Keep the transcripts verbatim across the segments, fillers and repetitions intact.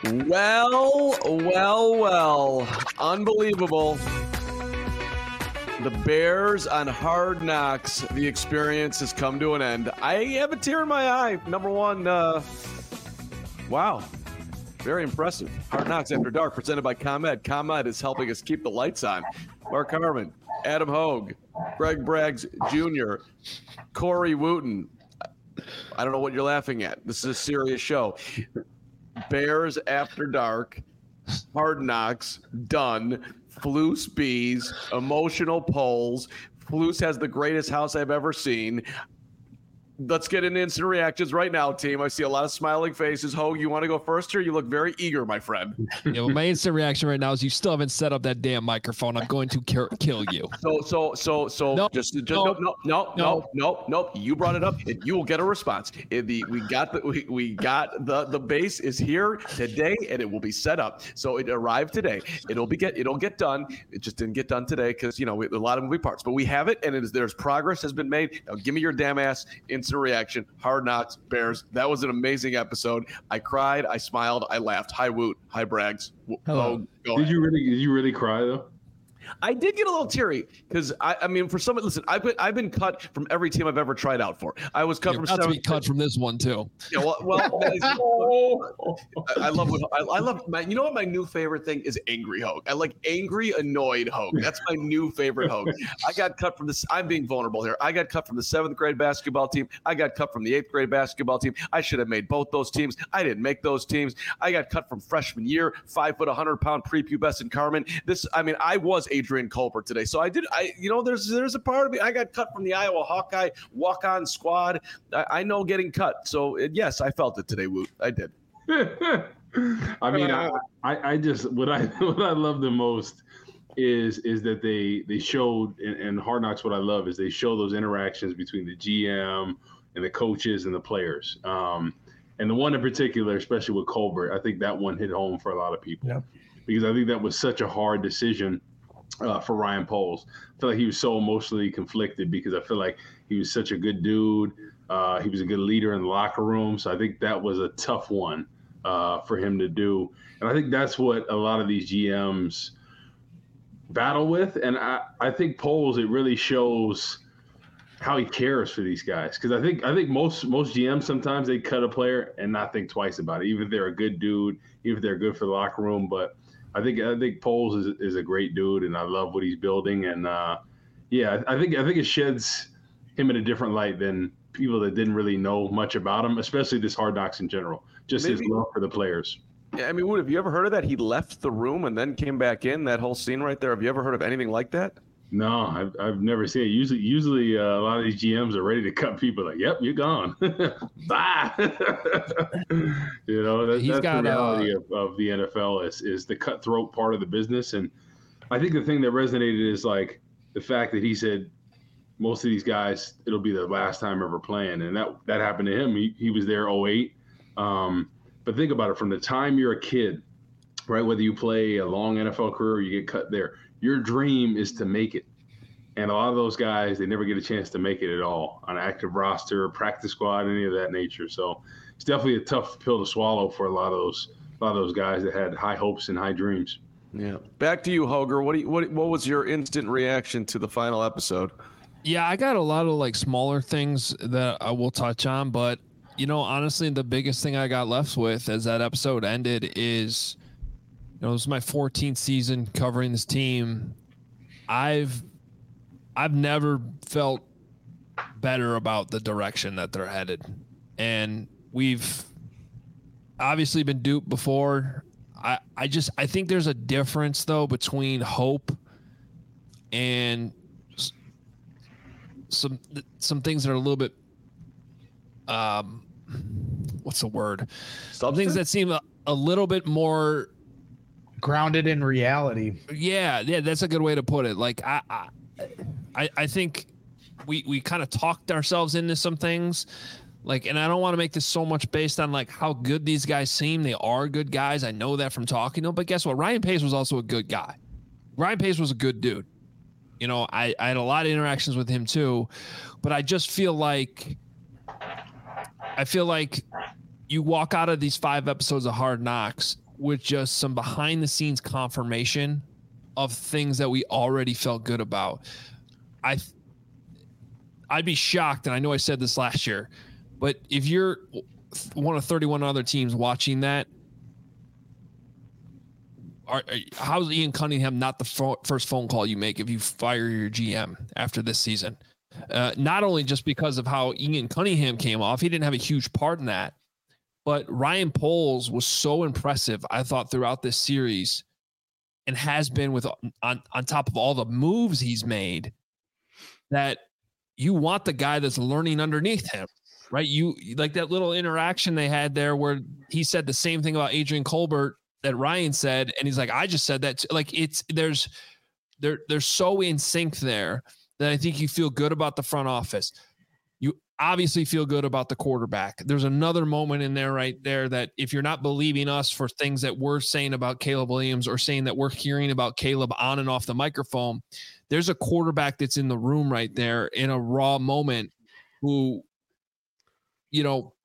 Well, well, well. Unbelievable. The Bears on Hard Knocks. The experience has come to an end. I have a tear in my eye. Number one, uh, wow. Very impressive. Hard Knocks After Dark, presented by ComEd. ComEd is helping us keep the lights on. Mark Harmon, Adam Hogue, Greg Braggs Junior, Corey Wooten. I don't know what you're laughing at. This is a serious show. Bears After Dark, Hard Knocks, done. Flus Bees, emotional polls. Flus has the greatest house I've ever seen. Let's get into instant reactions right now, team. I see a lot of smiling faces. Ho, you want to go first here? You look very eager, my friend. Yeah, well, my instant reaction right now is you still haven't set up that damn microphone. I'm going to ki- kill you. So, so, so, so, nope. just, just, nope. no, no, no, no, no, no. You brought it up. And you will get a response. It, the we got the we, we got the the base is here today, and it will be set up. So it arrived today. It'll be get it'll get done. It just didn't get done today because you know we, a lot of moving parts. But we have it, and it is there's progress has been made. Now give me your damn ass instant reaction. Hard Knocks, Bears. That was an amazing episode. I cried, I smiled, I laughed. Hi Woot, hi Braggs. Hello. Oh, did you really? Did you really cry though? I did get a little teary because I, I mean, for some, listen, I've been, I've been cut from every team I've ever tried out for. I was cut You're from about seven. To be cut from this one too. Yeah, well, well that is, I, I love what I, I love. My, you know what my new favorite thing is? Angry Hogue. I like angry, annoyed Hogue. That's my new favorite Hogue. I got cut from this. I'm being vulnerable here. I got cut from the seventh grade basketball team. I got cut from the eighth grade basketball team. I should have made both those teams. I didn't make those teams. I got cut from freshman year. Five foot, a hundred pound prepubescent Carmen. This, I mean, I was Adrian Colbert today. So I did, I, you know, there's there's a part of me. I got cut from the Iowa Hawkeye walk-on squad. I, I know getting cut. So it, yes, I felt it today, Woot. I did. I mean, I, I, I just what I what I love the most is is that they they showed in, in Hard Knocks. What I love is they show those interactions between the G M and the coaches and the players. Um, and the one in particular, especially with Colbert, I think that one hit home for a lot of people yeah. because I think that was such a hard decision. Uh, for Ryan Poles. I feel like he was so emotionally conflicted because I feel like he was such a good dude. Uh, he was a good leader in the locker room. So I think that was a tough one uh, for him to do. And I think that's what a lot of these G Ms battle with. And I, I think Poles, it really shows how he cares for these guys. Because I think I think most most G Ms sometimes they cut a player and not think twice about it, even if they're a good dude, even if they're good for the locker room. But I think I think Poles is is a great dude, and I love what he's building. And uh, yeah, I think I think it sheds him in a different light than people that didn't really know much about him, especially this Hard Knocks in general. Just Maybe. his love for the players. Yeah, I mean, Wood, have you ever heard of that? He left the room and then came back in. That whole scene right there. Have you ever heard of anything like that? No, I've I've never seen it. Usually, usually uh, a lot of these G Ms are ready to cut people. Like, yep, you're gone. Bye. you know, that, that's got, the reality uh, of, of the N F L is is the cutthroat part of the business. And I think the thing that resonated is like the fact that he said most of these guys, it'll be their last time ever playing, and that that happened to him. He he was there oh eight. Um, but think about it, from the time you're a kid, right? Whether you play a long N F L career or you get cut there. Your dream is to make it. And a lot of those guys, they never get a chance to make it at all on active roster, practice squad, any of that nature. So it's definitely a tough pill to swallow for a lot of those a lot of those guys that had high hopes and high dreams. Yeah. Back to you, Hoger. What do you, what what was your instant reaction to the final episode? Yeah, I got a lot of like smaller things that I will touch on, but you know, honestly, the biggest thing I got left with as that episode ended is, you know, it was my fourteenth season covering this team. I've I've never felt better about the direction that they're headed. And we've obviously been duped before. I, I just I think there's a difference though between hope and some some things that are a little bit um what's the word? Some things that seem a, a little bit more grounded in reality. Yeah, yeah, that's a good way to put it. Like I, I, I think we we kind of talked ourselves into some things. Like, and I don't want to make this so much based on like how good these guys seem. They are good guys. I know that from talking to them. But guess what? Ryan Pace was also a good guy. Ryan Pace was a good dude. You know, I, I had a lot of interactions with him too. But I just feel like I feel like you walk out of these five episodes of Hard Knocks with just some behind the scenes confirmation of things that we already felt good about. I, I'd be shocked, and I know I said this last year, but if you're one of thirty-one other teams watching that, are, how's Ian Cunningham not the fo- first phone call you make if you fire your G M after this season? Uh, not only just because of how Ian Cunningham came off, he didn't have a huge part in that, but Ryan Poles was so impressive, I thought, throughout this series, and has been with on, on top of all the moves he's made, that you want the guy that's learning underneath him, right? You like that little interaction they had there where he said the same thing about Adrian Colbert that Ryan said, and he's like, I just said that too. Like it's there's they're they're so in sync there that I think you feel good about the front office. You obviously feel good about the quarterback. There's another moment in there right there that if you're not believing us for things that we're saying about Caleb Williams or saying that we're hearing about Caleb on and off the microphone, there's a quarterback that's in the room right there in a raw moment who, you know,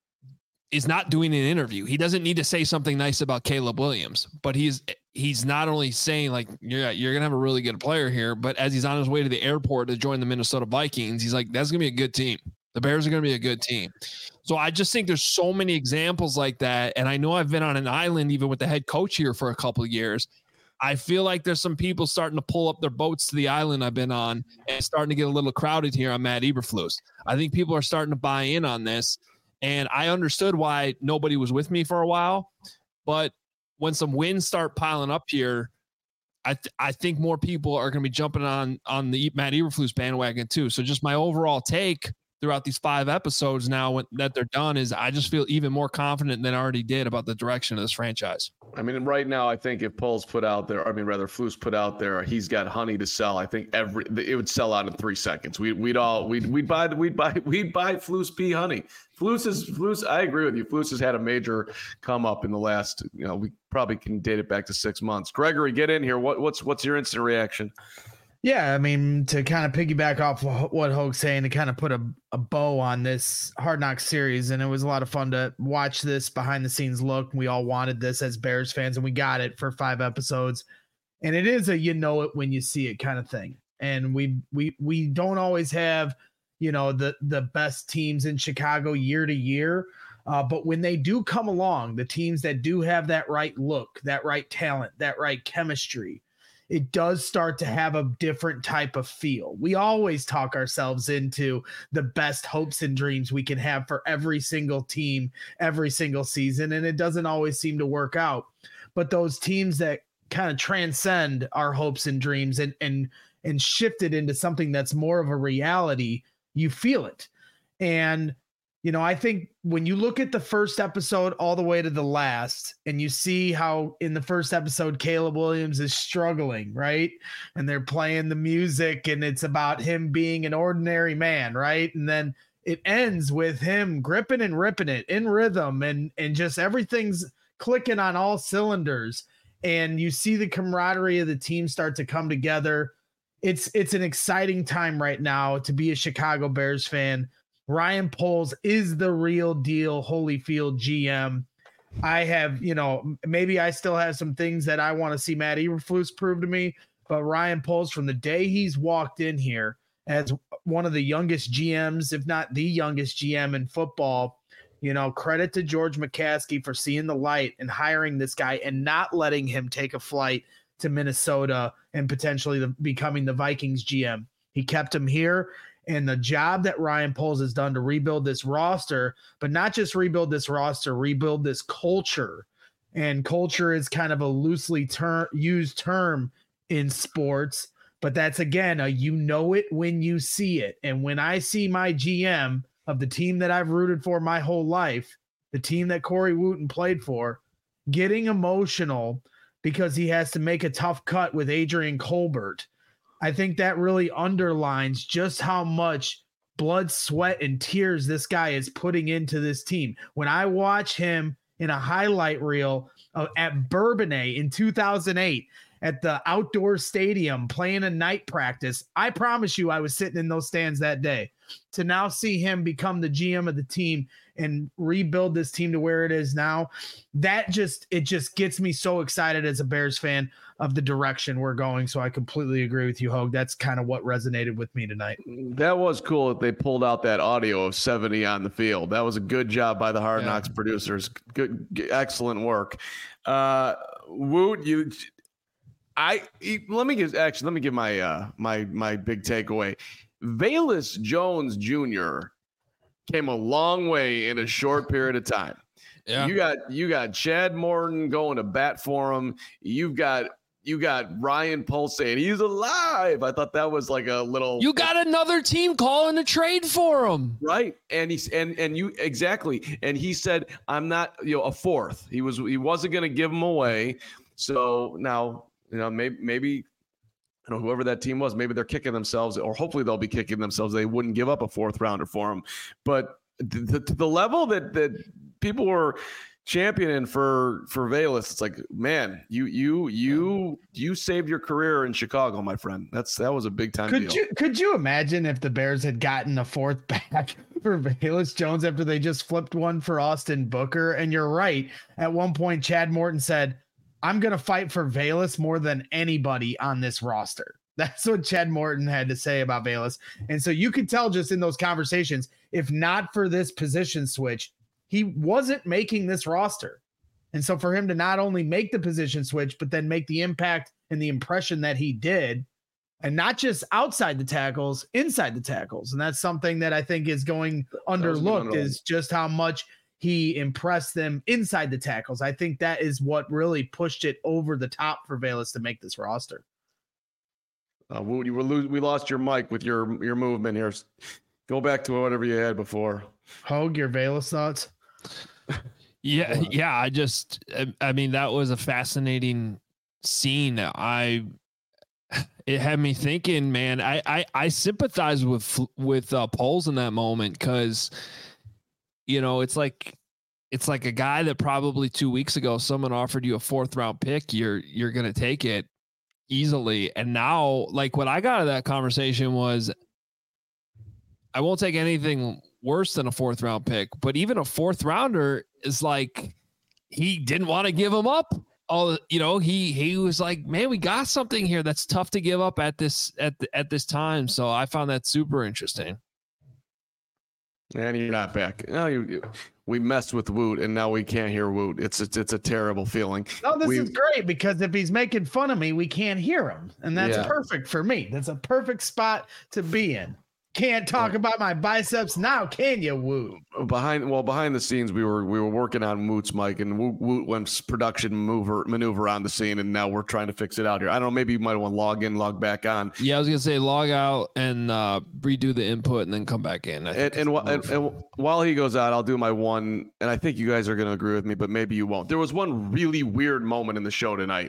is not doing an interview. He doesn't need to say something nice about Caleb Williams, but he's he's not only saying like, yeah, you're going to have a really good player here, but as he's on his way to the airport to join the Minnesota Vikings, he's like, that's going to be a good team. The Bears are going to be a good team. So I just think there's so many examples like that. And I know I've been on an island even with the head coach here for a couple of years. I feel like there's some people starting to pull up their boats to the island I've been on and starting to get a little crowded here on Matt Eberflus. I think people are starting to buy in on this. And I understood why nobody was with me for a while. But when some wins start piling up here, I th- I think more people are going to be jumping on, on the Matt Eberflus bandwagon too. So just my overall take throughout these five episodes now when, that they're done is I just feel even more confident than I already did about the direction of this franchise. I mean, right now, I think if Poles put out there, I mean, rather Flus put out there, he's got honey to sell. I think every it would sell out in three seconds. We, we'd all we'd we'd buy we'd buy we'd buy Flus P honey. Flus is Flus. I agree with you. Flus has had a major come up in the last. You know, we probably can date it back to six months. Gregory, get in here. What what's what's your instant reaction? Yeah, I mean, to kind of piggyback off what Hoke's saying, to kind of put a, a bow on this Hard Knocks series, and it was a lot of fun to watch this behind-the-scenes look. We all wanted this as Bears fans, and we got it for five episodes. And it is a you know it when you see it kind of thing. And we we we don't always have, you know, the, the best teams in Chicago year to year, uh, but when they do come along, the teams that do have that right look, that right talent, that right chemistry, it does start to have a different type of feel. We always talk ourselves into the best hopes and dreams we can have for every single team, every single season, and it doesn't always seem to work out. But those teams that kind of transcend our hopes and dreams and and and shift it into something that's more of a reality, you feel it. And you know, I think when you look at the first episode all the way to the last, and you see how in the first episode, Caleb Williams is struggling, right? And they're playing the music and it's about him being an ordinary man, right? And then it ends with him gripping and ripping it in rhythm and, and just everything's clicking on all cylinders. And you see the camaraderie of the team start to come together. It's, it's an exciting time right now to be a Chicago Bears fan. Ryan Poles is the real deal Holyfield G M. I have, you know, maybe I still have some things that I want to see Matt Eberflus prove to me, but Ryan Poles, from the day he's walked in here as one of the youngest G Ms, if not the youngest G M in football, you know, credit to George McCaskey for seeing the light and hiring this guy and not letting him take a flight to Minnesota and potentially the, becoming the Vikings G M. He kept him here. And the job that Ryan Poles has done to rebuild this roster, but not just rebuild this roster, rebuild this culture. And culture is kind of a loosely ter- used term in sports, but that's, again, a you know it when you see it. And when I see my G M of the team that I've rooted for my whole life, the team that Corey Wooten played for, getting emotional because he has to make a tough cut with Adrian Colbert, I think that really underlines just how much blood, sweat, and tears this guy is putting into this team. When I watch him in a highlight reel uh, at Bourbonnais in two thousand eight at the outdoor stadium playing a night practice, I promise you I was sitting in those stands that day. To now see him become the G M of the team and rebuild this team to where it is now. That just, it just gets me so excited as a Bears fan of the direction we're going. So I completely agree with you, Hogue. That's kind of what resonated with me tonight. That was cool that they pulled out that audio of seventy on the field. That was a good job by the Hard Yeah. Knocks producers. Good, good excellent work. Uh, Woot, you, I let me give actually let me give my uh my my big takeaway. Velus Jones Junior came a long way in a short period of time. Yeah. You got you got Chad Morton going to bat for him. You've got you got Ryan Poles saying he's alive. I thought that was like a little. You got another team calling a trade for him, right? And he's and and you exactly. And he said, "I'm not you know a fourth." He was he wasn't going to give him away. So now you know maybe maybe. I don't know, whoever that team was, maybe they're kicking themselves, or hopefully they'll be kicking themselves. They wouldn't give up a fourth rounder for him. But the, the, the level that that people were championing for for Velus, it's like, man, you you you you saved your career in Chicago, my friend. That's that was a big time Could deal. you could you imagine if the Bears had gotten a fourth back for Velus Jones after they just flipped one for Austin Booker? And you're right. At one point, Chad Morton said, I'm going to fight for Velus more than anybody on this roster. That's what Chad Morton had to say about Velus. And so you could tell just in those conversations, if not for this position switch, he wasn't making this roster. And so for him to not only make the position switch, but then make the impact and the impression that he did, and not just outside the tackles, inside the tackles. And that's something that I think is going underlooked, is just how much he impressed them inside the tackles. I think that is what really pushed it over the top for Velus to make this roster. Uh, we, were lo- we lost your mic with your your movement here. Go back to whatever you had before. Hogue, your Velus thoughts? Yeah, yeah. I just, I mean, that was a fascinating scene. I, it had me thinking, man. I, I, I sympathize with with uh, Poles in that moment, because, you know, it's like, it's like a guy that probably two weeks ago someone offered you a fourth round pick. You're you're gonna take it easily, and now, like, what I got out of that conversation was, I won't take anything worse than a fourth round pick, but even a fourth rounder is like, he didn't want to give him up. All, you know, he he was like, man, we got something here that's tough to give up at this at the, at this time. So I found that super interesting. And you're not back. No, you, you we messed with Woot, and now we can't hear Woot. It's it's, it's a terrible feeling. No, this we, is great, because if he's making fun of me, we can't hear him, and that's Yeah. perfect for me. That's a perfect spot to be in. Can't talk about my biceps now, can you, Woot? behind well behind the scenes we were we were working on Woot's mic, and Woot, Woot went production maneuver maneuver on the scene, and now we're trying to fix it out here. I don't know, maybe you might want to log in, log back on. Yeah, I was gonna say log out and uh, redo the input and then come back in. I think And and, that's wh- and the move. and while he goes out, I'll do my one, and I think you guys are going to agree with me, but maybe you won't. There was one really weird moment in the show tonight,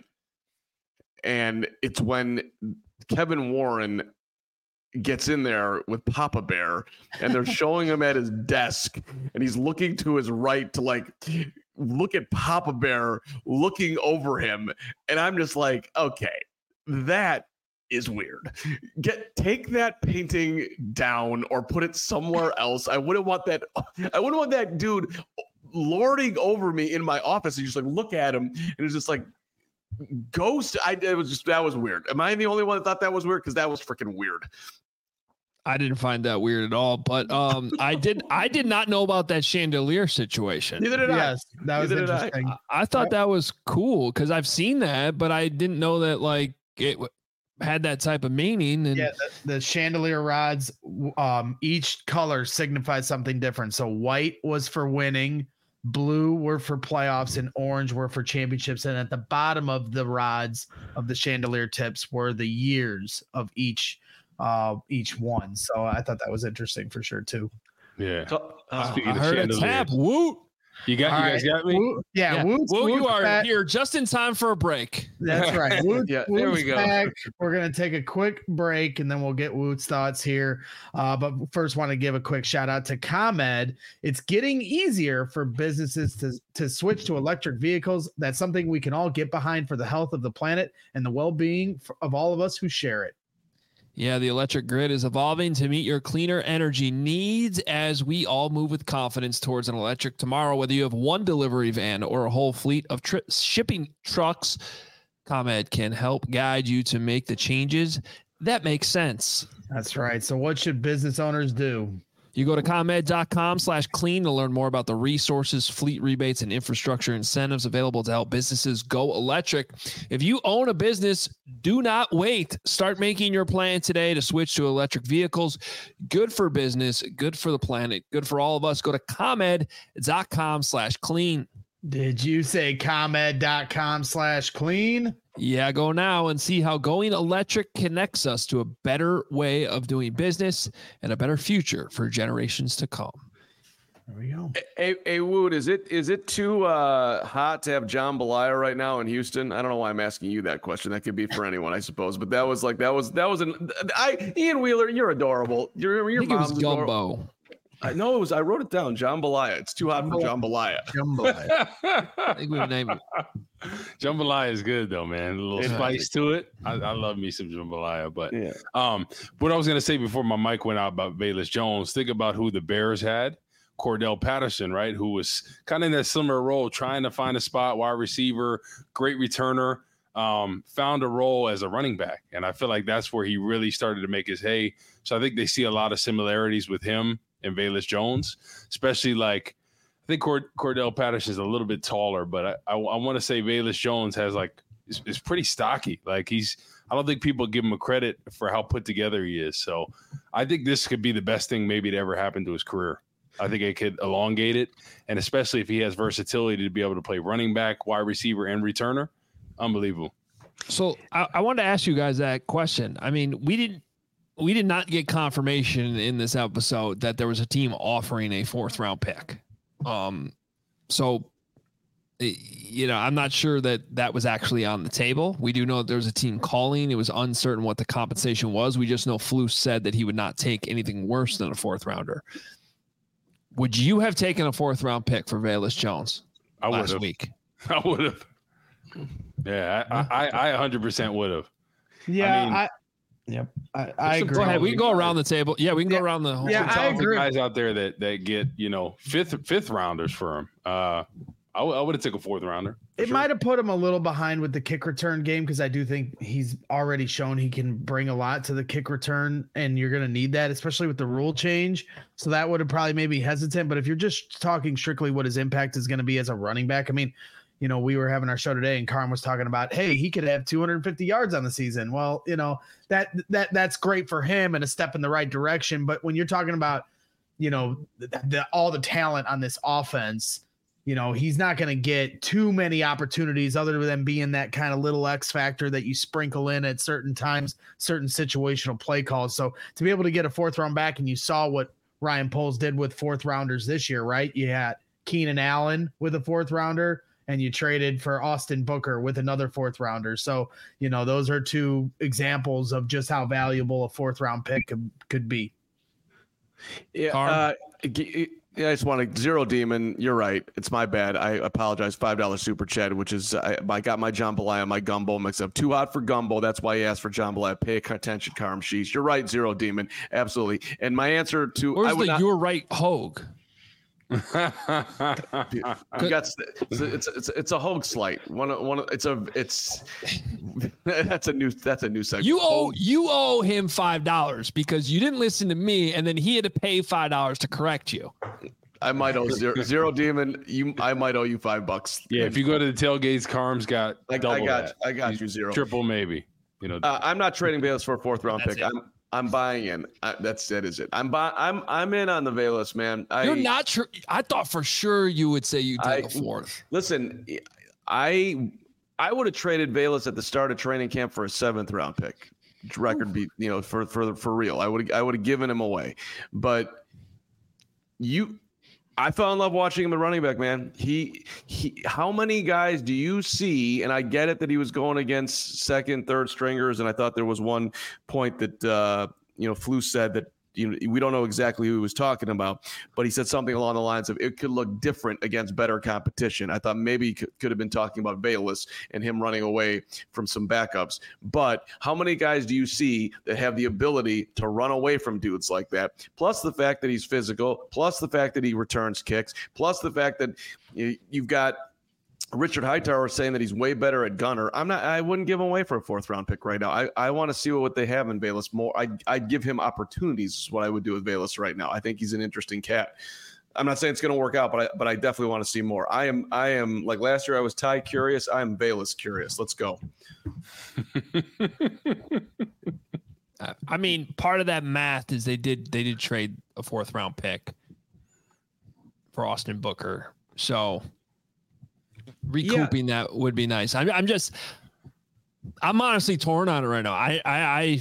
and it's when Kevin Warren gets in there with Papa Bear, and they're showing him at his desk, and he's looking to his right to like look at Papa Bear looking over him, and I'm just like, okay, that is weird. Get take that painting down or put it somewhere else. I wouldn't want that. I wouldn't want that dude lording over me in my office. And you just like look at him, and it's just like ghost. I it was just that was weird. Am I the only one that thought that was weird? Because that was freaking weird. I didn't find that weird at all, but um, I did. I did not know about that chandelier situation. Neither did Yes, that was Neither did I. interesting. I, I thought that was cool because I've seen that, but I didn't know that like it w- had that type of meaning. And Yeah, the, the chandelier rods, um, each color signifies something different. So white was for winning, blue were for playoffs, and orange were for championships. And at the bottom of the rods of the chandelier tips were the years of each uh each one. So I thought that was interesting for sure too. Yeah. So, uh, Speaking I of heard a chandeliers. tap. Woot. You got All you guys right. got me? Woo- yeah, Yeah. Woot's- Woot, you Woot's are back. here just in time for a break. That's right. Woot, Yeah, there Woot's we go. back. We're going to take a quick break, and then we'll get Woot's thoughts here. Uh, but first, want to give a quick shout out to ComEd. It's getting easier for businesses to, to switch to electric vehicles. That's something we can all get behind for the health of the planet and the well-being f- of all of us who share it. Yeah, the electric grid is evolving to meet your cleaner energy needs as we all move with confidence towards an electric tomorrow. Whether you have one delivery van or a whole fleet of tri- shipping trucks, ComEd can help guide you to make the changes that make sense. That's right. So what should business owners do? You go to ComEd.com slash clean to learn more about the resources, fleet rebates, and infrastructure incentives available to help businesses go electric. If you own a business, do not wait. Start making your plan today to switch to electric vehicles. Good for business, good for the planet, good for all of us. Go to ComEd.com slash clean. Did you say ComEd.com slash clean? Yeah, go now and see how going electric connects us to a better way of doing business and a better future for generations to come. There we go. Hey, hey Wood, is it is it too uh, hot to have Jambalaya right now in Houston? I don't know why I'm asking you that question. That could be for anyone, I suppose. But that was like that was that was an I Ian Wheeler. You're adorable. Your your I think it mom's was adorable. gumbo. I know it was. I wrote it down. Jambalaya. It's too hot for Jambalaya. Jambalaya. I think we named it. Jambalaya is good though, man. A little Yeah. spice to it. I, I love me some jambalaya. But Yeah. um, what I was gonna say before my mic went out about Velus Jones, think about who the Bears had. Cordell Patterson, right? Who was kind of in that similar role, trying to find a spot, wide receiver, great returner, um, found a role as a running back. And I feel like that's where he really started to make his hay. So I think they see a lot of similarities with him and Velus Jones, especially like, I think Cord- Cordell Patterson is a little bit taller, but I, I, I want to say Velus Jones has like, is, is pretty stocky. Like he's, I don't think people give him a credit for how put together he is. So I think this could be the best thing maybe to ever happen to his career. I think it could elongate it. And especially if he has versatility to be able to play running back, wide receiver, and returner. Unbelievable. So I, I wanted to ask you guys that question. I mean, we didn't, we did not get confirmation in this episode that there was a team offering a fourth round pick. Um, so, you know, I'm not sure that that was actually on the table. We do know that there was a team calling. It was uncertain what the compensation was. We just know Flus said that he would not take anything worse than a fourth rounder. Would you have taken a fourth round pick for Velus Jones I last would've. week? I would have. Yeah, I, I, I one hundred percent would have. Yeah, I mean, I, yep, I, I some agree. Go ahead. We can go around the table. Yeah, we can go Yeah. around the whole Yeah, Some I talented agree. guys out there that that get you know fifth fifth rounders for him. Uh, I, w- I would have took a fourth rounder. for It sure. might have put him a little behind with the kick return game because I do think he's already shown he can bring a lot to the kick return, and you're going to need that, especially with the rule change. So that would have probably made me hesitant. But if you're just talking strictly what his impact is going to be as a running back, I mean, you know, we were having our show today, and Carm was talking about, hey, he could have two hundred fifty yards on the season. Well, you know, that that that's great for him and a step in the right direction. But when you're talking about, you know, the, the, all the talent on this offense, you know, he's not going to get too many opportunities other than being that kind of little X factor that you sprinkle in at certain times, certain situational play calls. So to be able to get a fourth round back, and you saw what Ryan Poles did with fourth rounders this year, right? You had Keenan Allen with a fourth rounder, and you traded for Austin Booker with another fourth rounder. So, you know, those are two examples of just how valuable a fourth round pick could, could be. Yeah. Carm? Uh, g- yeah, I just want to zero demon. You're right. It's my bad. I apologize. Five dollar super chat, which is I, I got my jambalaya, my gumbo mix up. Too hot for gumbo. That's why he asked for jambalaya. Pay attention, Carm Sheesh. You're right. Zero demon. Absolutely. And my answer to Where's I would the not, you're right Hogue? you got it's it's it's, it's a Hogue slight. One of- one. of- It's a it's that's a new that's a new segment. You owe Hogue- you owe him five dollars because you didn't listen to me, and then he had to pay five dollars to correct you. I might owe zero, zero demon. You I might owe you five bucks. Yeah, if you go to the tailgates, Carm's got I, double I got that. I got you zero. Triple maybe. You know, Uh, I'm not trading Velus for a fourth round That's pick. it. I'm I'm buying in. I, that's that is it. I'm buy, I'm I'm in on the Velus, man. I, You're not sure. I thought for sure you would say you take I- a fourth. Listen, I I would have traded Velus at the start of training camp for a seventh round pick. Record be you know for for for real. I would I would have given him away, but you. I fell in love watching him at running back, man. He, he, how many guys do you see? And I get it that he was going against second, third stringers, and I thought there was one point that uh, you know Flus said that you know, we don't know exactly who he was talking about, but he said something along the lines of it could look different against better competition. I thought maybe he could, could have been talking about Bayless and him running away from some backups. But how many guys do you see that have the ability to run away from dudes like that? Plus the fact that he's physical, plus the fact that he returns kicks, plus the fact that you, you've got Richard Hightower saying that he's way better at gunner. I'm not. I wouldn't give him away for a fourth round pick right now. I, I want to see what they have in Bayless more. I I'd give him opportunities. Is what I would do with Bayless right now. I think he's an interesting cat. I'm not saying it's going to work out, but I but I definitely want to see more. I am I am like last year. I was Ty curious. I am Bayless curious. Let's go. I mean, part of that math is they did they did trade a fourth round pick for Austin Booker, so. Recouping yeah. that would be nice. I'm, I'm just, I'm honestly torn on it right now. I, I, I,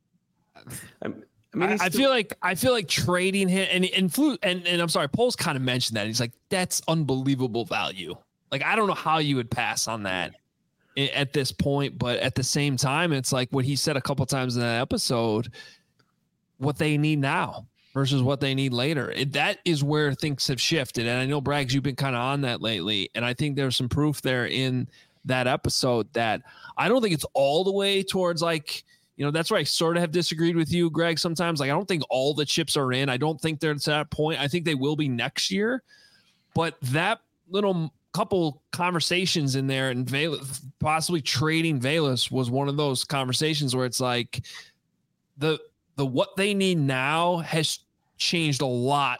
I, mean, I, I feel like I feel like trading him and and flu and, and I'm sorry, Poles kind of mentioned that. He's like, that's unbelievable value. Like, I don't know how you would pass on that at this point, but at the same time, it's like what he said a couple times in that episode. What they need now versus what they need later. It, that is where things have shifted. And I know, Braggs, you've been kind of on that lately. And I think there's some proof there in that episode that I don't think it's all the way towards like, you know, that's where I sort of have disagreed with you, Greg, sometimes. Like, I don't think all the chips are in. I don't think they're to that point. I think they will be next year. But that little couple conversations in there and Vel- possibly trading Bayless was one of those conversations where it's like the the what they need now has changed a lot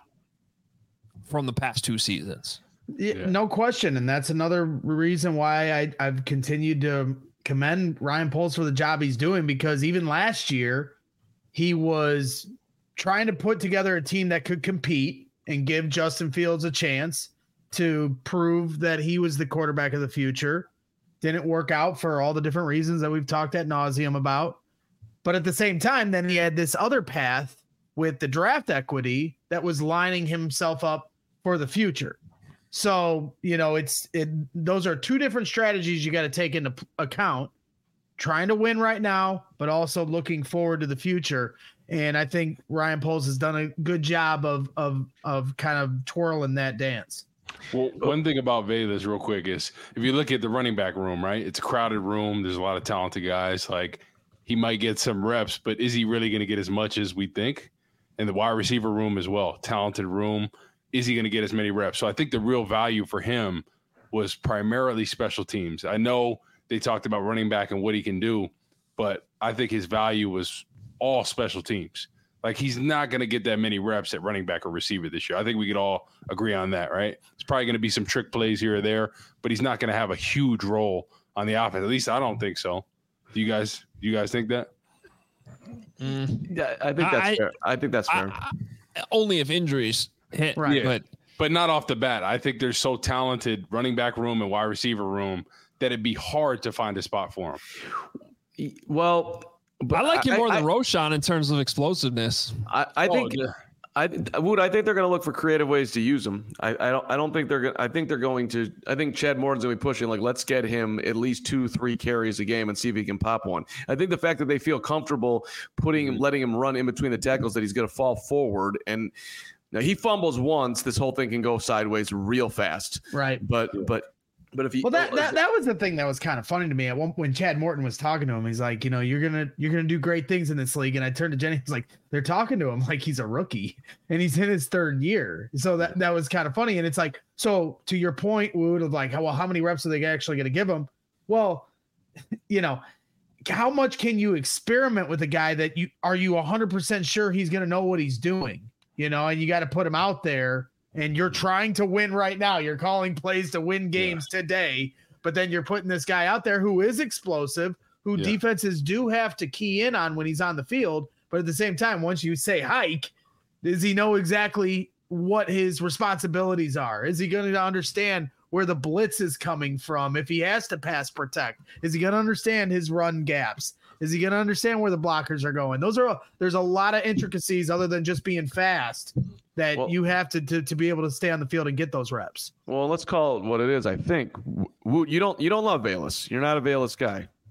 from the past two seasons. Yeah, no question. And that's another reason why I, I've continued to commend Ryan Poles for the job he's doing, because even last year he was trying to put together a team that could compete and give Justin Fields a chance to prove that he was the quarterback of the future. Didn't work out for all the different reasons that we've talked ad nauseum about. But at the same time, then he had this other path with the draft equity that was lining himself up for the future. So, you know, it's it. Those are two different strategies you got to take into account, trying to win right now, but also looking forward to the future. And I think Ryan Poles has done a good job of of of kind of twirling that dance. Well, one thing about Bayless real quick is if you look at the running back room, right? It's a crowded room. There's a lot of talented guys. Like, he might get some reps, but is he really going to get as much as we think? And the wide receiver room as well, talented room. Is he going to get as many reps? So I think the real value for him was primarily special teams. I know they talked about running back and what he can do, but I think his value was all special teams. Like, he's not going to get that many reps at running back or receiver this year. I think we could all agree on that, right? It's probably going to be some trick plays here or there, but he's not going to have a huge role on the offense. At least I don't think so. Do you guys, do you guys think that? Mm. Yeah, I think that's I, fair. I think that's fair. I, I, only if injuries hit, right? Yeah, but but not off the bat. I think there's so talented running back room and wide receiver room that it'd be hard to find a spot for him. Well, but I like him more I, than I, Roschon in terms of explosiveness. I, I think. Oh, yeah. I would. I think they're going to look for creative ways to use him. I, I don't. I don't think they're. I think they're going to. I think Chad Morton's going to be pushing. Like, let's get him at least two, three carries a game and see if he can pop one. I think the fact that they feel comfortable putting him, letting him run in between the tackles, that he's going to fall forward, and now he fumbles once, this whole thing can go sideways real fast. Right. But but. But if he, well, that, that that was the thing that was kind of funny to me. At one when Chad Morton was talking to him, he's like, you know, you're gonna you're gonna do great things in this league. And I turned to Jenny, he's like, they're talking to him like he's a rookie, and he's in his third year. So that that was kind of funny. And it's like, so to your point, Wood, of like, well, how many reps are they actually going to give him? Well, you know, how much can you experiment with a guy that you are you one hundred percent sure he's going to know what he's doing? You know, and you got to put him out there. And you're trying to win right now. You're calling plays to win games yeah. today, but then you're putting this guy out there who is explosive, who yeah. defenses do have to key in on when he's on the field. But at the same time, once you say hike, does he know exactly what his responsibilities are? Is he going to understand where the blitz is coming from? If he has to pass protect, is he going to understand his run gaps? Is he going to understand where the blockers are going? Those are, there's a lot of intricacies other than just being fast that well, you have to, to to be able to stay on the field and get those reps. Well, let's call it what it is. I think you don't you don't love Bayless. You're not a Bayless guy.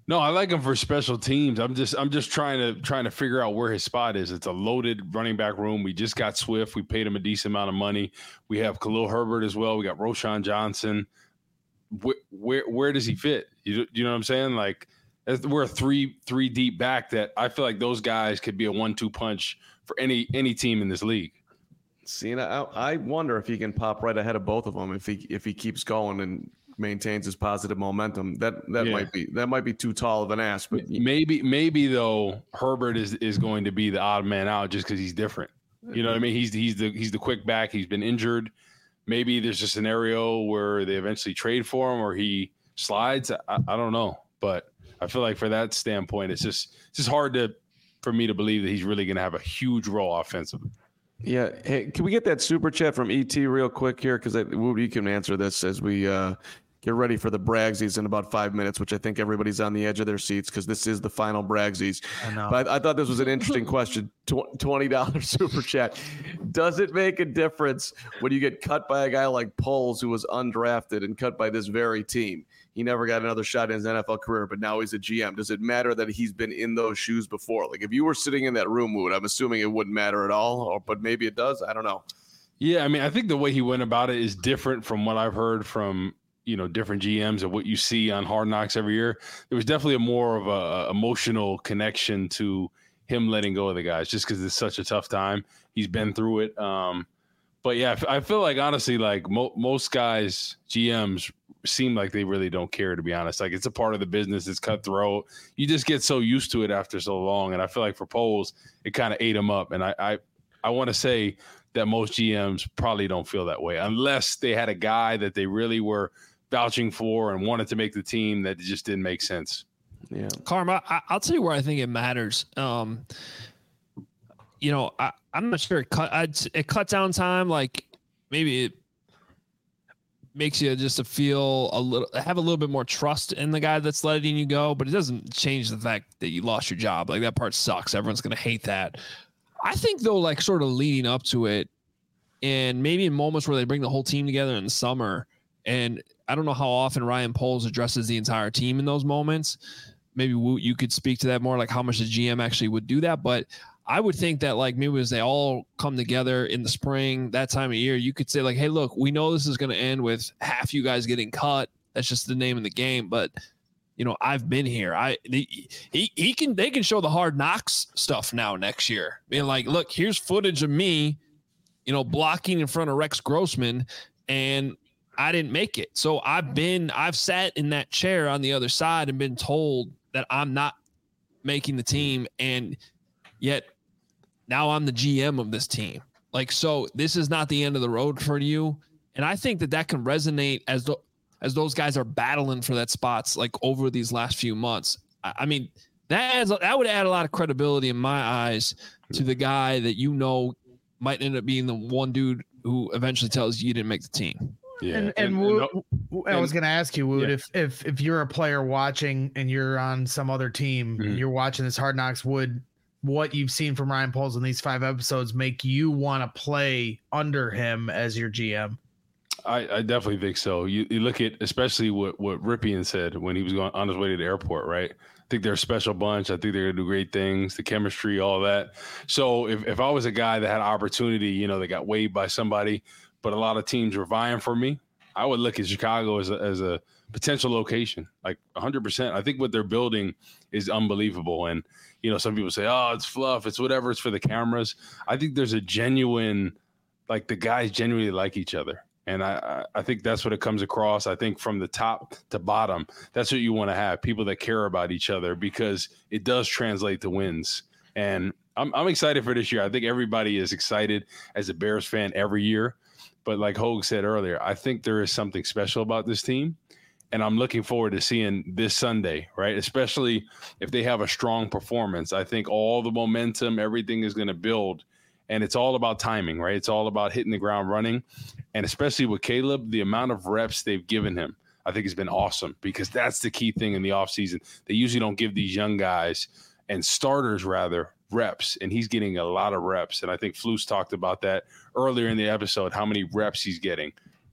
No, I like him for special teams. I'm just I'm just trying to trying to figure out where his spot is. It's a loaded running back room. We just got Swift. We paid him a decent amount of money. We have Khalil Herbert as well. We got Roschon Johnson. Where where, where does he fit? You, you know what I'm saying? Like we're a three three deep back that I feel like those guys could be a one two punch for any any team in this league. See, and I, I wonder if he can pop right ahead of both of them if he if he keeps going and maintains his positive momentum. That that yeah. might be that might be too tall of an ask, but maybe maybe though Herbert is is going to be the odd man out just because he's different. You know what I mean? He's he's the he's the quick back. He's been injured. Maybe there's a scenario where they eventually trade for him or he slides. I, I don't know, but I feel like for that standpoint, it's just it's just hard to for me to believe that he's really going to have a huge role offensively. Yeah. Hey, can we get that super chat from E T real quick here? Because we can answer this as we uh, get ready for the Bragsies in about five minutes, which I think everybody's on the edge of their seats because this is the final Bragsies. I know. But I, I thought this was an interesting question. twenty dollars super chat. Does it make a difference when you get cut by a guy like Poles, who was undrafted and cut by this very team? He never got another shot in his N F L career, but now he's a G M. Does it matter that he's been in those shoes before? Like if you were sitting in that room, Wood, I'm assuming it wouldn't matter at all, or, but maybe it does. I don't know. Yeah, I mean, I think the way he went about it is different from what I've heard from, you know, different G Ms and what you see on Hard Knocks every year. There was definitely a more of a, a emotional connection to him letting go of the guys just because it's such a tough time. He's been through it. Um, but yeah, I feel like honestly, like mo- most guys, G Ms seem like they really don't care, to be honest. Like it's a part of the business. It's cutthroat. You just get so used to it after so long. And I feel like for Poles, it kind of ate him up. And I, I, I want to say that most G Ms probably don't feel that way unless they had a guy that they really were vouching for and wanted to make the team that just didn't make sense. Yeah. Karma, I, I'll tell you where I think it matters. Um, you know, I, I'm not sure it cut, I'd, it cut down time. Like maybe it makes you just to feel a little, have a little bit more trust in the guy that's letting you go, but it doesn't change the fact that you lost your job. Like that part sucks. Everyone's going to hate that. I think though, like sort of leading up to it and maybe in moments where they bring the whole team together in the summer, and I don't know how often Ryan Poles addresses the entire team in those moments. Maybe you could speak to that more, like how much the G M actually would do that. But I would think that like maybe as they all come together in the spring, that time of year, you could say like, hey, look, we know this is going to end with half you guys getting cut. That's just the name of the game. But, you know, I've been here. I he, he, he can they can show the Hard Knocks stuff now next year. Being like, look, here's footage of me, you know, blocking in front of Rex Grossman, and I didn't make it. So I've been I've sat in that chair on the other side and been told that I'm not making the team, and yet now I'm the G M of this team. Like, so this is not the end of the road for you. And I think that that can resonate as the, as those guys are battling for that spots like over these last few months. I, I mean, that adds, that would add a lot of credibility in my eyes to the guy that, you know, might end up being the one dude who eventually tells you you didn't make the team. Yeah. And, and, and, Wood, and I was going to ask you, Wood, yeah. if, if, if you're a player watching and you're on some other team mm-hmm. and you're watching this Hard Knocks, would what you've seen from Ryan Poles in these five episodes make you want to play under him as your G M? I, I definitely think so. You, you look at especially what, what Ripien said when he was going on his way to the airport, right? I think they're a special bunch. I think they're going to do great things, the chemistry, all that. So if, if I was a guy that had opportunity, you know, that got waived by somebody, but a lot of teams were vying for me, I would look at Chicago as a, as a potential location, like one hundred percent. I think what they're building is unbelievable. And, you know, some people say, oh, it's fluff, it's whatever, it's for the cameras. I think there's a genuine, like the guys genuinely like each other. And I, I think that's what it comes across. I think from the top to bottom, that's what you want to have, people that care about each other, because it does translate to wins. And I'm, I'm excited for this year. I think everybody is excited as a Bears fan every year. But like Hogue said earlier, I think there is something special about this team. And I'm looking forward to seeing this Sunday, right? Especially if they have a strong performance. I think all the momentum, everything is going to build. And it's all about timing, right? It's all about hitting the ground running. And especially with Caleb, the amount of reps they've given him, I think has been awesome, because that's the key thing in the offseason. They usually don't give these young guys, and starters rather, reps. And he's getting a lot of reps. And I think Flus talked about that earlier in the episode, how many reps he's getting.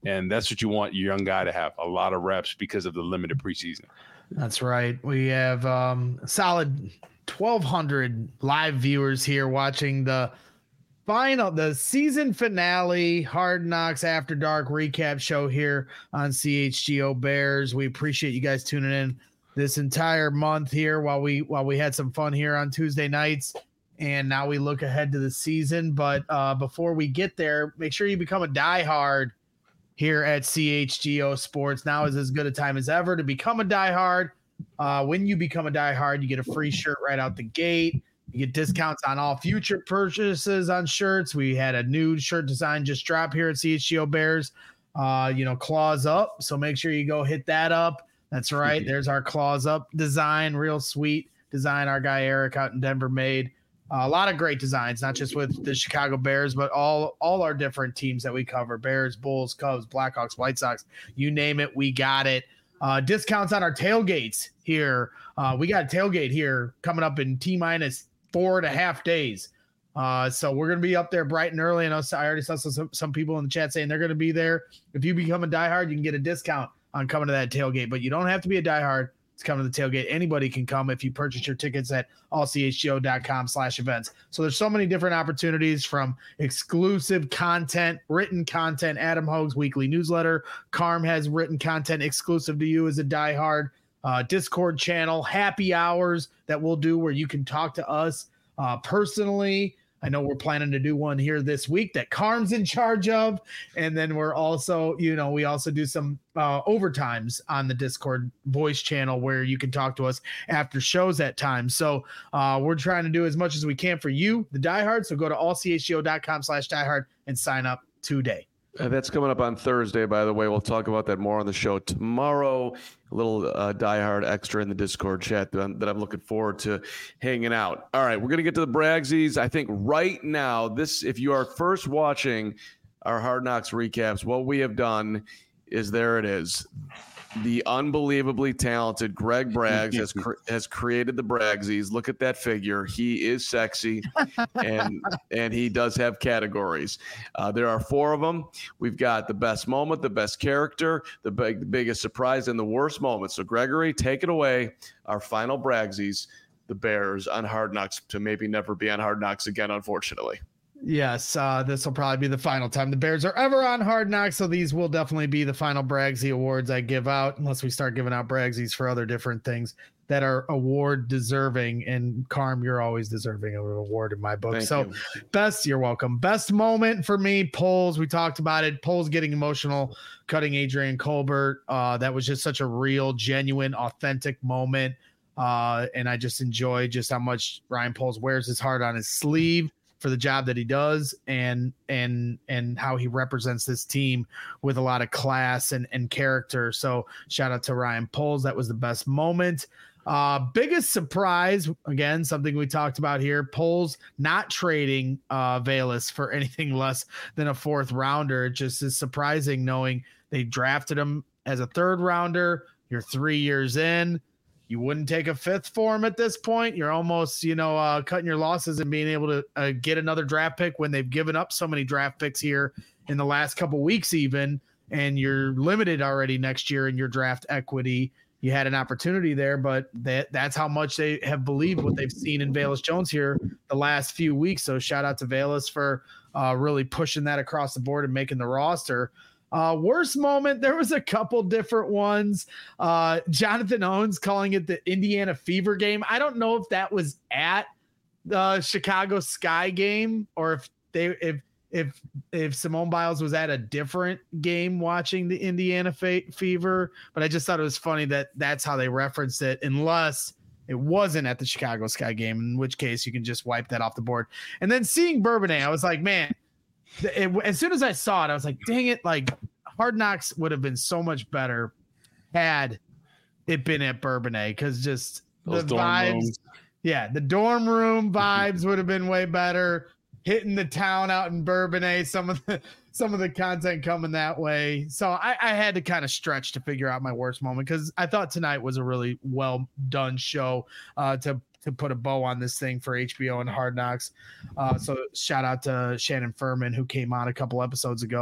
And that's what you want your young guy to have, a lot of reps because of the limited preseason. That's right. We have um, solid twelve hundred live viewers here watching the final, the season finale, Hard Knocks After Dark recap show here on C H G O Bears. We appreciate you guys tuning in this entire month here while we while we had some fun here on Tuesday nights. And now we look ahead to the season. But uh, before we get there, make sure you become a diehard here at C H G O Sports. Now is as good a time as ever to become a diehard. Uh, when you become a diehard, you get a free shirt right out the gate. You get discounts on all future purchases on shirts. We had a new shirt design just drop here at C H G O Bears. Uh, you know, claws up. So make sure you go hit that up. That's right. There's our claws up design. Real sweet design our guy Eric out in Denver made. Uh, a lot of great designs, not just with the Chicago Bears, but all all our different teams that we cover: Bears, Bulls, Cubs, Blackhawks, White Sox. You name it, we got it. Uh, discounts on our tailgates here. Uh, we got a tailgate here coming up in T minus four and a half days. Uh, so we're going to be up there bright and early. And I already saw some, some people in the chat saying they're going to be there. If you become a diehard, you can get a discount on coming to that tailgate, but you don't have to be a diehard to come to the tailgate. Anybody can come if you purchase your tickets at all c h g o dot com slash events. So there's so many different opportunities, from exclusive content, written content, Adam Hogue's weekly newsletter. Carm has written content exclusive to you as a diehard, uh, Discord channel, happy hours that we'll do where you can talk to us uh, personally. I know we're planning to do one here this week that Carm's in charge of. And then we're also, you know, we also do some uh, overtimes on the Discord voice channel where you can talk to us after shows at times. So uh, we're trying to do as much as we can for you, the diehard. So go to all c h g o dot com slash diehard and sign up today. Uh, that's coming up on Thursday, by the way. We'll talk about that more on the show tomorrow. A little uh, diehard extra in the Discord chat that I'm, that I'm looking forward to hanging out. All right, we're going to get to the Bragsies. I think right now, this, if you are first watching our Hard Knocks recaps, what we have done is there it is. The unbelievably talented Greg Braggs has cr- has created the Bragsies. Look at that figure. He is sexy, and and he does have categories. Uh, there are four of them. We've got the best moment, the best character, the, big, the biggest surprise, and the worst moment. So, Gregory, take it away. Our final Bragsies, the Bears on Hard Knocks, to maybe never be on Hard Knocks again, unfortunately. Yes, uh, this will probably be the final time the Bears are ever on Hard Knocks, so these will definitely be the final Bragsie awards I give out, unless we start giving out Bragsies for other different things that are award deserving. And Carm, you're always deserving of an award in my book. Thank so you. best, you're welcome. Best moment for me, Poles. We talked about it. Poles getting emotional, cutting Adrian Colbert. Uh, that was just such a real, genuine, authentic moment. Uh, and I just enjoy just how much Ryan Poles wears his heart on his sleeve for the job that he does, and and and how he represents this team with a lot of class and, and character. So shout out to Ryan Poles. That was the best moment. Uh, biggest surprise, again, something we talked about here, Poles not trading uh, Velus for anything less than a fourth rounder. It just is surprising knowing they drafted him as a third rounder. You're three years in. You wouldn't take a fifth for him at this point. You're almost, you know, uh, cutting your losses and being able to uh, get another draft pick when they've given up so many draft picks here in the last couple weeks even, and you're limited already next year in your draft equity. You had an opportunity there, but that that's how much they have believed what they've seen in Velus Jones here the last few weeks. So shout out to Velus for uh, really pushing that across the board and making the roster. Uh, worst moment, there was a couple different ones. Uh, Jonathan Owens calling it the Indiana Fever game. I don't know if that was at the Chicago Sky game or if they if if if Simone Biles was at a different game watching the Indiana Fe- Fever. But I just thought it was funny that that's how they referenced it, unless it wasn't at the Chicago Sky game, in which case you can just wipe that off the board. And then seeing Bourbonnais, I was like, man. It, as soon as I saw it, I was like, dang it, like Hard Knocks would have been so much better had it been at Bourbonnais, because just Those the vibes. Rooms. Yeah, the dorm room vibes would have been way better. Hitting the town out in Bourbonnais, some of the some of the content coming that way. So I, I had to kind of stretch to figure out my worst moment, because I thought tonight was a really well done show uh, to to put a bow on this thing for H B O and Hard Knocks. Uh, so shout out to Shannon Furman, who came on a couple episodes ago.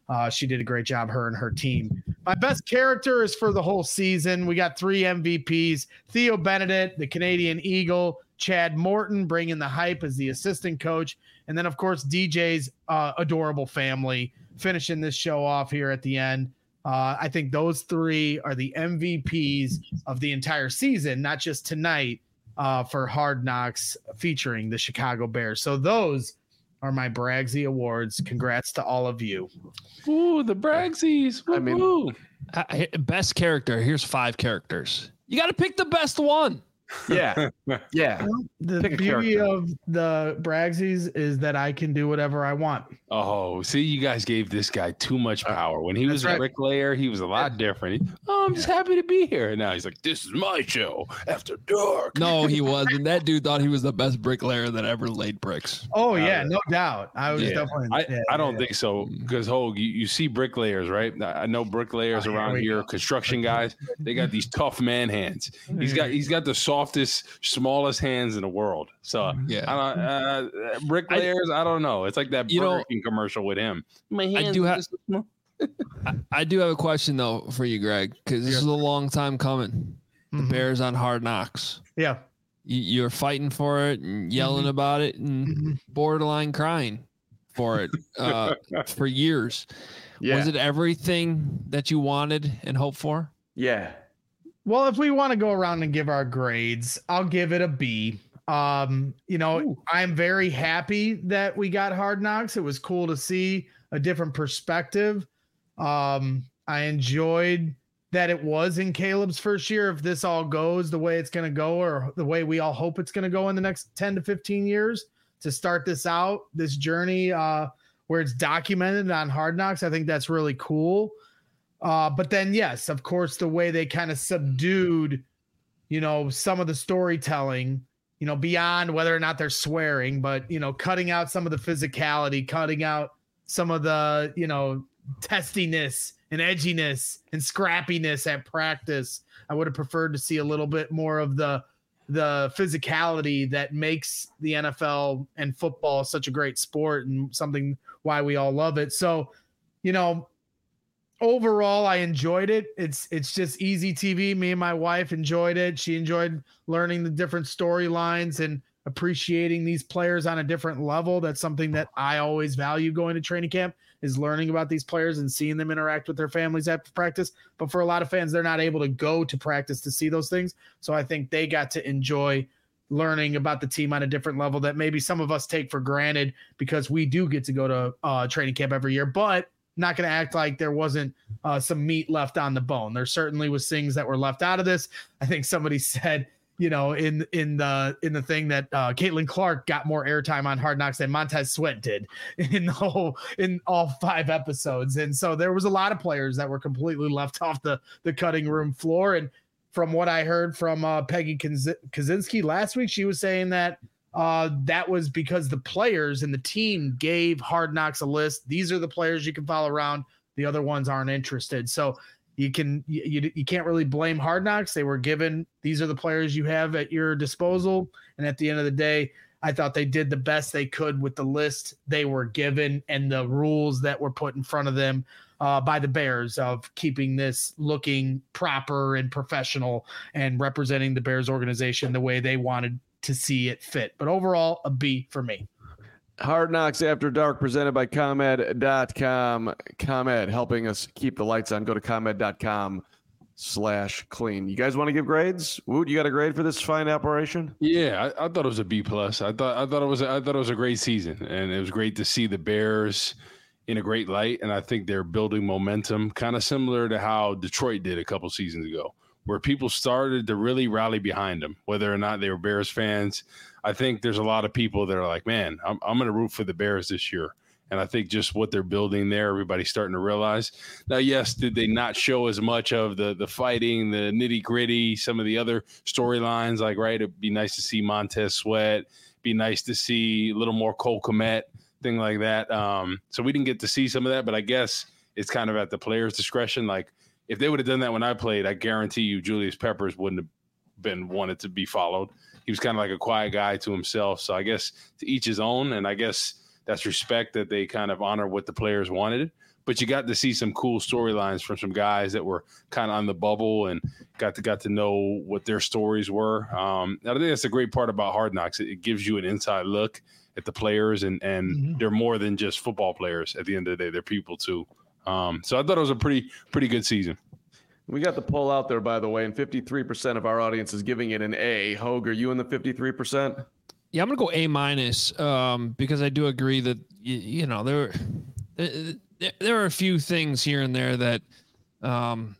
Uh, she did a great job, her and her team. My best character is for the whole season. We got three M V Ps. Theo Benedict, the Canadian Eagle. Chad Morton bringing the hype as the assistant coach. And then, of course, D J's uh, adorable family finishing this show off here at the end. Uh, I think those three are the M V Ps of the entire season, not just tonight uh, for Hard Knocks featuring the Chicago Bears. So those are my Bragsy Awards. Congrats to all of you. Ooh, the Bragsies. I mean, Uh, best character. Here's five characters. You got to pick the best one. Yeah. Yeah. The Pick a beauty character. of the Bragsies is that I can do whatever I want. Oh, see, you guys gave this guy too much power. When he That's was right. a bricklayer, he was a lot different. He, oh, I'm just happy to be here. And now he's like, this is my show after dark. No, he wasn't. That dude thought he was the best bricklayer that ever laid bricks. Oh, yeah, no doubt. I was Yeah. definitely. I, yeah, I don't yeah. think so because Hogue, you, you see bricklayers, right? I I know bricklayers Oh, here around we here, go. construction guys. They got these tough man hands. He's got he's got the softest, smallest hands in the world. So Yeah. I don't, uh, bricklayers, I, don't know. It's like that You Burger know, King commercial with him. My I hands do are have- just so small. I, I do have a question though for you, Greg, because this Yeah. is a long time coming. The Mhm. Bears on Hard Knocks. Yeah. You, you're fighting for it and yelling Mhm. about it and Mhm. borderline crying for it uh, for years. Yeah. Was it everything that you wanted and hoped for? Yeah. Well, if we want to go around and give our grades, I'll give it a B. Um, you know, Ooh. I'm very happy that we got Hard Knocks. It was cool to see a different perspective. Um, I enjoyed that it was in Caleb's first year. If this all goes the way it's going to go, or the way we all hope it's going to go in the next ten to fifteen years to start this out, this journey, uh, where it's documented on Hard Knocks, I think that's really cool. Uh, but then, yes, of course, the way they kind of subdued, you know, some of the storytelling, you know, beyond whether or not they're swearing, but, you know, cutting out some of the physicality, cutting out some of the, you know, testiness and edginess and scrappiness at practice. I would have preferred to see a little bit more of the the physicality that makes the N F L and football such a great sport and something why we all love it. So, you know, overall I enjoyed it. It's it's just easy T V. Me and my wife enjoyed it. She enjoyed learning the different storylines and appreciating these players on a different level. That's something that I always value going to training camp, is learning about these players and seeing them interact with their families after practice. But for a lot of fans, they're not able to go to practice to see those things. So I think they got to enjoy learning about the team on a different level that maybe some of us take for granted because we do get to go to uh, training camp every year, but not going to act like there wasn't uh, some meat left on the bone. There certainly was things that were left out of this. I think somebody said, you know, in in the in the thing that uh, Caitlin Clark got more airtime on Hard Knocks than Montez Sweat did in the whole in all five episodes, and so there was a lot of players that were completely left off the the cutting room floor. And from what I heard from uh, Peggy Kaz- Kaczynski last week, she was saying that uh, that was because the players and the team gave Hard Knocks a list. These are the players you can follow around. The other ones aren't interested. So you can you, you, you can't really blame Hard Knocks. They were given, these are the players you have at your disposal. And at the end of the day, I thought they did the best they could with the list they were given and the rules that were put in front of them uh, by the Bears of keeping this looking proper and professional and representing the Bears organization the way they wanted to see it fit. But overall, a B for me. Hard Knocks After Dark, presented by ComEd dot com. ComEd, helping us keep the lights on. Go to ComEd dot com slash clean. You guys want to give grades? Woot, you got a grade for this fine operation? Yeah, I, I thought it was a B plus. I thought I thought it was a, I thought it was a great season, and it was great to see the Bears in a great light. And I think they're building momentum, kind of similar to how Detroit did a couple seasons ago, where people started to really rally behind them, whether or not they were Bears fans. I think there's a lot of people that are like, man, I'm I'm going to root for the Bears this year. And I think just what they're building there, everybody's starting to realize. Now, yes, did they not show as much of the the fighting, the nitty gritty, some of the other storylines? Like, right, it'd be nice to see Montez Sweat, be nice to see a little more Cole Kmet, thing like that. Um, so we didn't get to see some of that, but I guess it's kind of at the player's discretion. Like, if they would have done that when I played, I guarantee you Julius Peppers wouldn't have been wanted to be followed. He was kind of like a quiet guy to himself. So I guess to each his own, and I guess that's respect that they kind of honor what the players wanted. but you got to see some cool storylines from some guys that were kind of on the bubble and got to got to know what their stories were. Um, I think that's a great part about Hard Knocks. It, it gives you an inside look at the players, and and mm-hmm. they're more than just football players. At the end of the day, they're people too. Um, so I thought it was a pretty pretty good season. We got the poll out there, by the way, and fifty-three percent of our audience is giving it an A. Hogue, are you in the fifty-three percent? Yeah, I'm gonna go A minus um, because I do agree that you, you know there, there there are a few things here and there that um,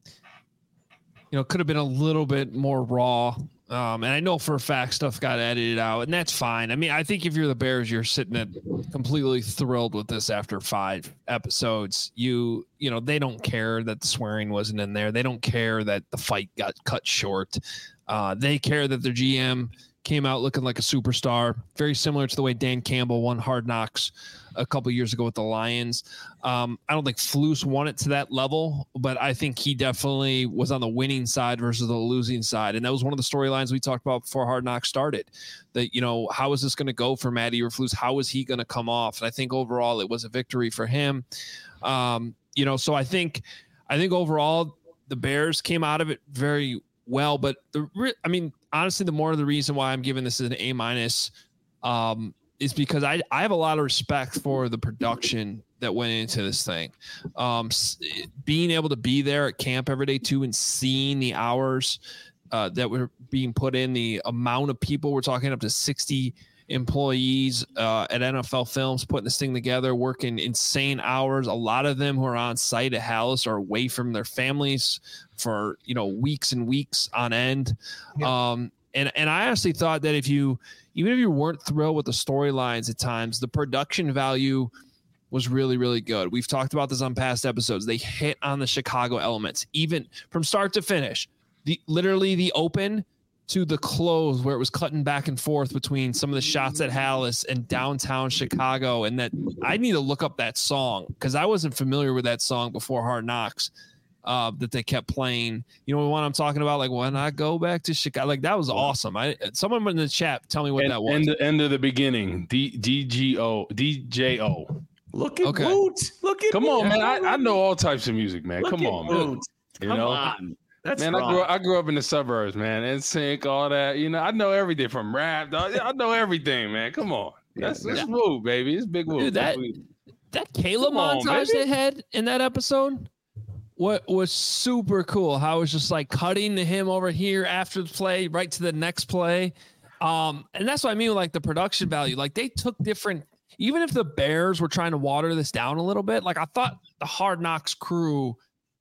you know could have been a little bit more raw. Um, and I know for a fact stuff got edited out, and that's fine. I mean, I think if you're the Bears, you're sitting at completely thrilled with this after five episodes. You, you know, they don't care that the swearing wasn't in there. They don't care that the fight got cut short. Uh, they care that their G M came out looking like a superstar, very similar to the way Dan Campbell won Hard Knocks a couple years ago with the Lions. Um, I don't think Flus won it to that level, but I think he definitely was on the winning side versus the losing side. And that was one of the storylines we talked about before Hard Knocks started, that, you know, how is this going to go for Matt Eberflus? How is he going to come off? And I think overall it was a victory for him. Um, you know, so I think, I think overall the Bears came out of it very well, but the, I mean, honestly, the more of the reason why I'm giving this an A minus, um, is because I, I have a lot of respect for the production that went into this thing. Um, being able to be there at camp every day too, and seeing the hours uh, that were being put in, the amount of people, we're talking up to sixty employees uh, at N F L Films putting this thing together, working insane hours. A lot of them who are on site at Halas are away from their families for, you know, weeks and weeks on end. Yeah. Um, and, and I honestly thought that if you, even if you weren't thrilled with the storylines at times, the production value was really, really good. We've talked about this on past episodes. They hit on the Chicago elements, even from start to finish. The literally the open to the close, where it was cutting back and forth between some of the shots at Halas and downtown Chicago. And that I need to look up that song because I wasn't familiar with that song before Hard Knocks. Uh, that they kept playing, you know, the one I'm talking about, like when I go back to Chicago, like that was awesome. I someone in the chat, tell me what and, that was. And the end of the beginning, D D G O D J O. Look at okay. Woot. Look at come Woot. on, man. I, I know all types of music, man. Look come on, Woot. man. You come know, on. That's man. wrong. I grew I grew up in the suburbs, man. N Sync, all that. You know, I know everything from rap. I know everything, man. Come on, that's yeah. that's Woot, baby. It's big Woot. Dude, that that Caleb montage they had in that episode. What was super cool, how it was just like cutting to him over here after the play, right to the next play. Um, and that's what I mean with like the production value. Like they took different, even if the Bears were trying to water this down a little bit, like I thought the Hard Knocks crew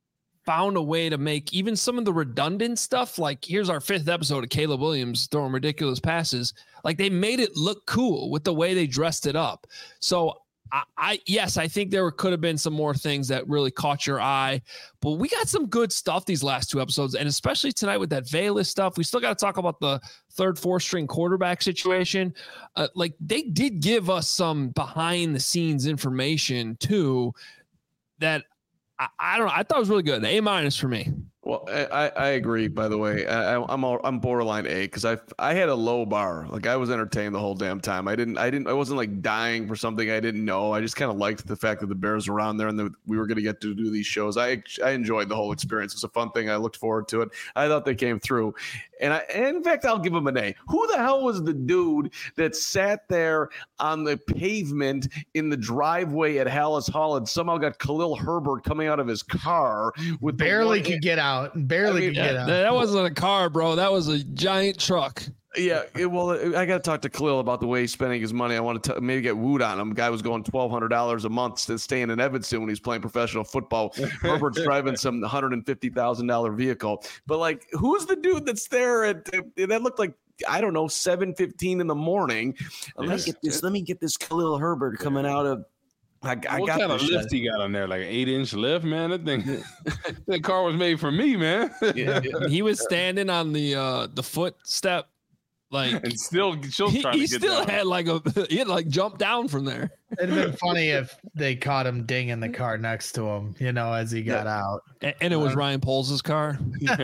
found a way to make even some of the redundant stuff, like here's our fifth episode of Caleb Williams throwing ridiculous passes. Like they made it look cool with the way they dressed it up. So I, I yes, I think there could have been some more things that really caught your eye, but we got some good stuff these last two episodes, and especially tonight with that Velus stuff. We still got to talk about the third, fourth string quarterback situation. Uh, like they did give us some behind the scenes information too that I, I don't know. I thought it was really good. A minus for me. Well, I, I agree. By the way, I, I'm all, I'm borderline A because I I had a low bar. Like I was entertained the whole damn time. I didn't I didn't I wasn't like dying for something I didn't know. I just kind of liked the fact that the Bears were around there and that we were going to get to do these shows. I I enjoyed the whole experience. It's a fun thing. I looked forward to it. I thought they came through, and I and in fact I'll give them an A. Who the hell was the dude that sat there on the pavement in the driveway at Halas Hall and somehow got Khalil Herbert coming out of his car with barely could get out. Barely I mean, could get yeah, out. That wasn't a car, bro. That was a giant truck. Yeah, it, well, I got to talk to Khalil about the way he's spending his money. I want to maybe get Woot on him. Guy was going twelve hundred dollars a month to staying in Evanston when he's playing professional football. Herbert's driving some one hundred fifty thousand dollars vehicle. But, like, who's the dude that's there at that looked like, I don't know, seven fifteen in the morning? Let me get this, let me get this Khalil Herbert coming out of I, I what got kind of shit. lift he got on there? Like an eight inch lift, man. That thing, that car was made for me, man. Yeah, yeah. He was standing on the uh, the footstep, like, and still, still he, trying he to get still down. had like a he had like jumped down from there. It'd have been funny if they caught him dinging the car next to him, you know, as he got yeah. out. And, and it was uh, Ryan Poles' car.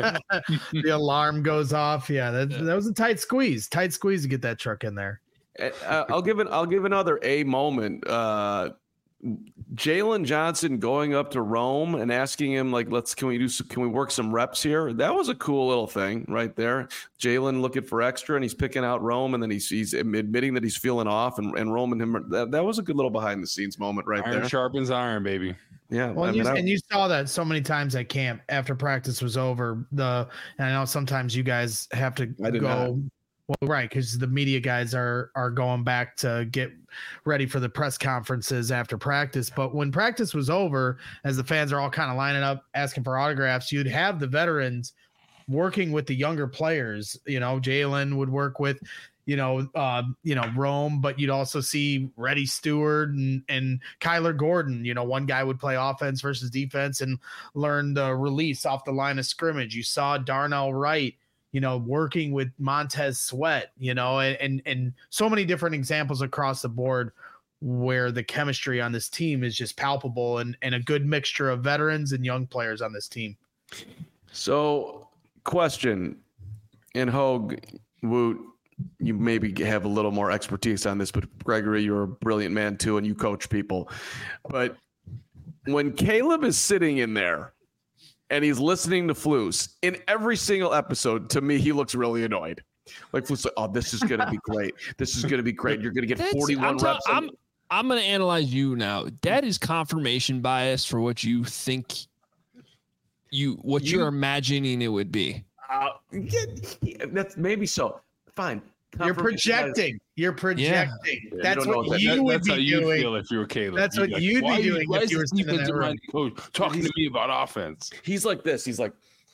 The alarm goes off. Yeah, that, yeah. that was a tight squeeze. Tight squeeze to get that truck in there. Uh, I'll give it. I'll give another A moment. Uh, Jalen Johnson going up to Rome and asking him, like, let's, can we do, some, can we work some reps here? That was a cool little thing right there. Jalen looking for extra and he's picking out Rome and then he's, he's admitting that he's feeling off and, and Rome and him. That, that was a good little behind the scenes moment right iron there. Sharpens iron, baby. Yeah. Well, I and, mean, you, I, and you saw that so many times at camp after practice was over. The and I know sometimes you guys have to I did go. not. Well, right, because the media guys are are going back to get ready for the press conferences after practice. But when practice was over, as the fans are all kind of lining up asking for autographs, you'd have the veterans working with the younger players. You know, Jalen would work with, you know, uh, you know, Rome, but you'd also see Reddy Stewart and, and Kyler Gordon. You know, one guy would play offense versus defense and learn the release off the line of scrimmage. You saw Darnell Wright, you know, working with Montez Sweat, you know, and, and, and so many different examples across the board where the chemistry on this team is just palpable and, and a good mixture of veterans and young players on this team. So, question, and Hogue, Woot, you maybe have a little more expertise on this, but Gregory, you're a brilliant man too, and you coach people. But when Caleb is sitting in there and he's listening to Flus in every single episode, to me, he looks really annoyed. Like Flus, like, oh, this is going to be great. This is going to be great. You're going to get That's- forty-one I'm ta- reps. I'm, I'm going to analyze you now. That is confirmation bias for what you think you, what You- you're imagining it would be. Uh, yeah, yeah, that's maybe so. Fine. You're Confirmation bias. projecting. You're projecting. Yeah, That's you don't know what what that- you That- would that's how be you doing. feel if you were Caleb. That's You'd what be like, you'd be why are you- doing why if is you were this sitting in that defensive room. minded coach talking to me about offense? He's like this. He's like,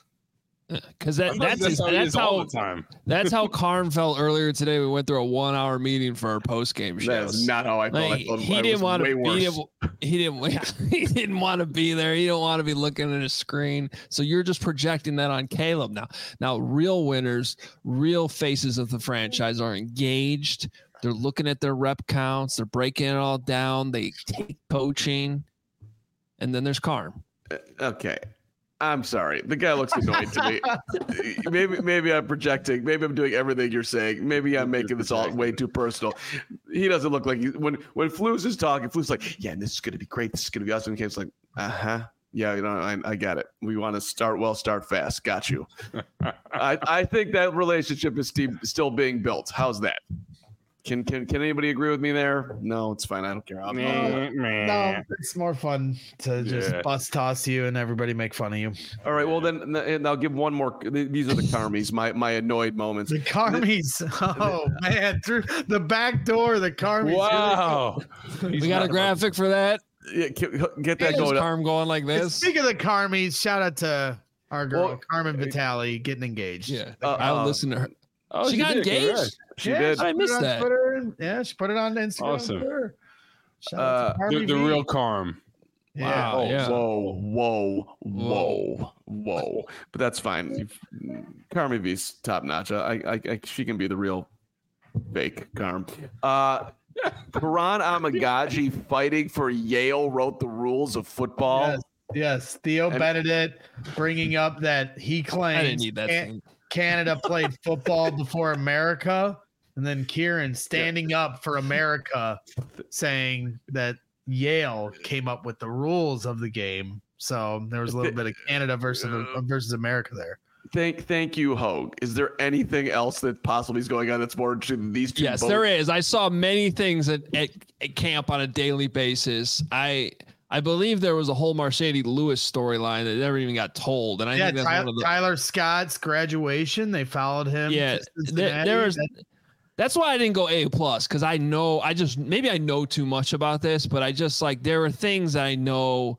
Because that, I thought that's his, how he that's is all how the time. that's how Carm felt earlier today. We went through a one hour meeting for our post game show. that's not how I felt. Like, I felt he I didn't was want way to. He worse. didn't, he didn't. He didn't want to be there. He don't want to be looking at a screen. So you're just projecting that on Caleb now. Now, real winners, real faces of the franchise are engaged. They're looking at their rep counts. They're breaking it all down. They take coaching, and then there's Carm. Okay. I'm sorry. The guy looks annoyed to me. Maybe maybe I'm projecting. Maybe I'm doing everything you're saying. Maybe I'm making this all way too personal. He doesn't look like he, when when Flus is talking, Flus is like, yeah, and this is gonna be great. This is gonna be awesome. And Caleb's like, uh-huh. Yeah, you know, I, I get it. We want to start well, start fast. Got you. I, I think that relationship is st- still being built. How's that? Can can can anybody agree with me there? No, it's fine. I don't care. I'll- No, it's more fun to just Yeah. bus toss you and everybody make fun of you. All right. Well, then, and I'll give one more. These are the Carmies, my my annoyed moments. The Carmies. Oh man, through the back door, the Carmies. Wow. We got a graphic for that. Yeah, get that There's going. up. Carm going like this. Speaking of the Carmies, shout out to our girl Well, Carmen Vitale getting engaged. Yeah, Uh, I'll uh, listen to her. Oh, She got did. engaged? Congrats. She Yeah, did. I put it missed on that. Twitter. Yeah, she put it on Instagram. Awesome. Twitter. Shout out Uh, to The, Carmi the V. real Carm. Yeah. Wow. Oh, yeah. whoa, whoa, whoa, whoa! But that's fine. Carmi V's top notch. I, I, I, she can be the real fake Carm. Uh, Karan Amagaji fighting for Yale wrote the rules of football. Yes, yes. Theo And- Benedict bringing up that he claims I didn't need that. Can- thing. Canada played football before America, and then Kieran standing up for America, saying that Yale came up with the rules of the game. So there was a little bit of Canada versus versus America there. Thank, thank you, Hogue. Is there anything else that possibly is going on that's more interesting than these two? Yes, both- there is. I saw many things at, at, at camp on a daily basis. I I believe there was a whole Mercedes Lewis storyline that never even got told, and I Yeah, think that's Tyler, one of the Tyler Scott's graduation. They followed him. yeah. to There, Cincinnati. there is. That- That's why I didn't go A plus because I know I just maybe I know too much about this, but I just like there are things I know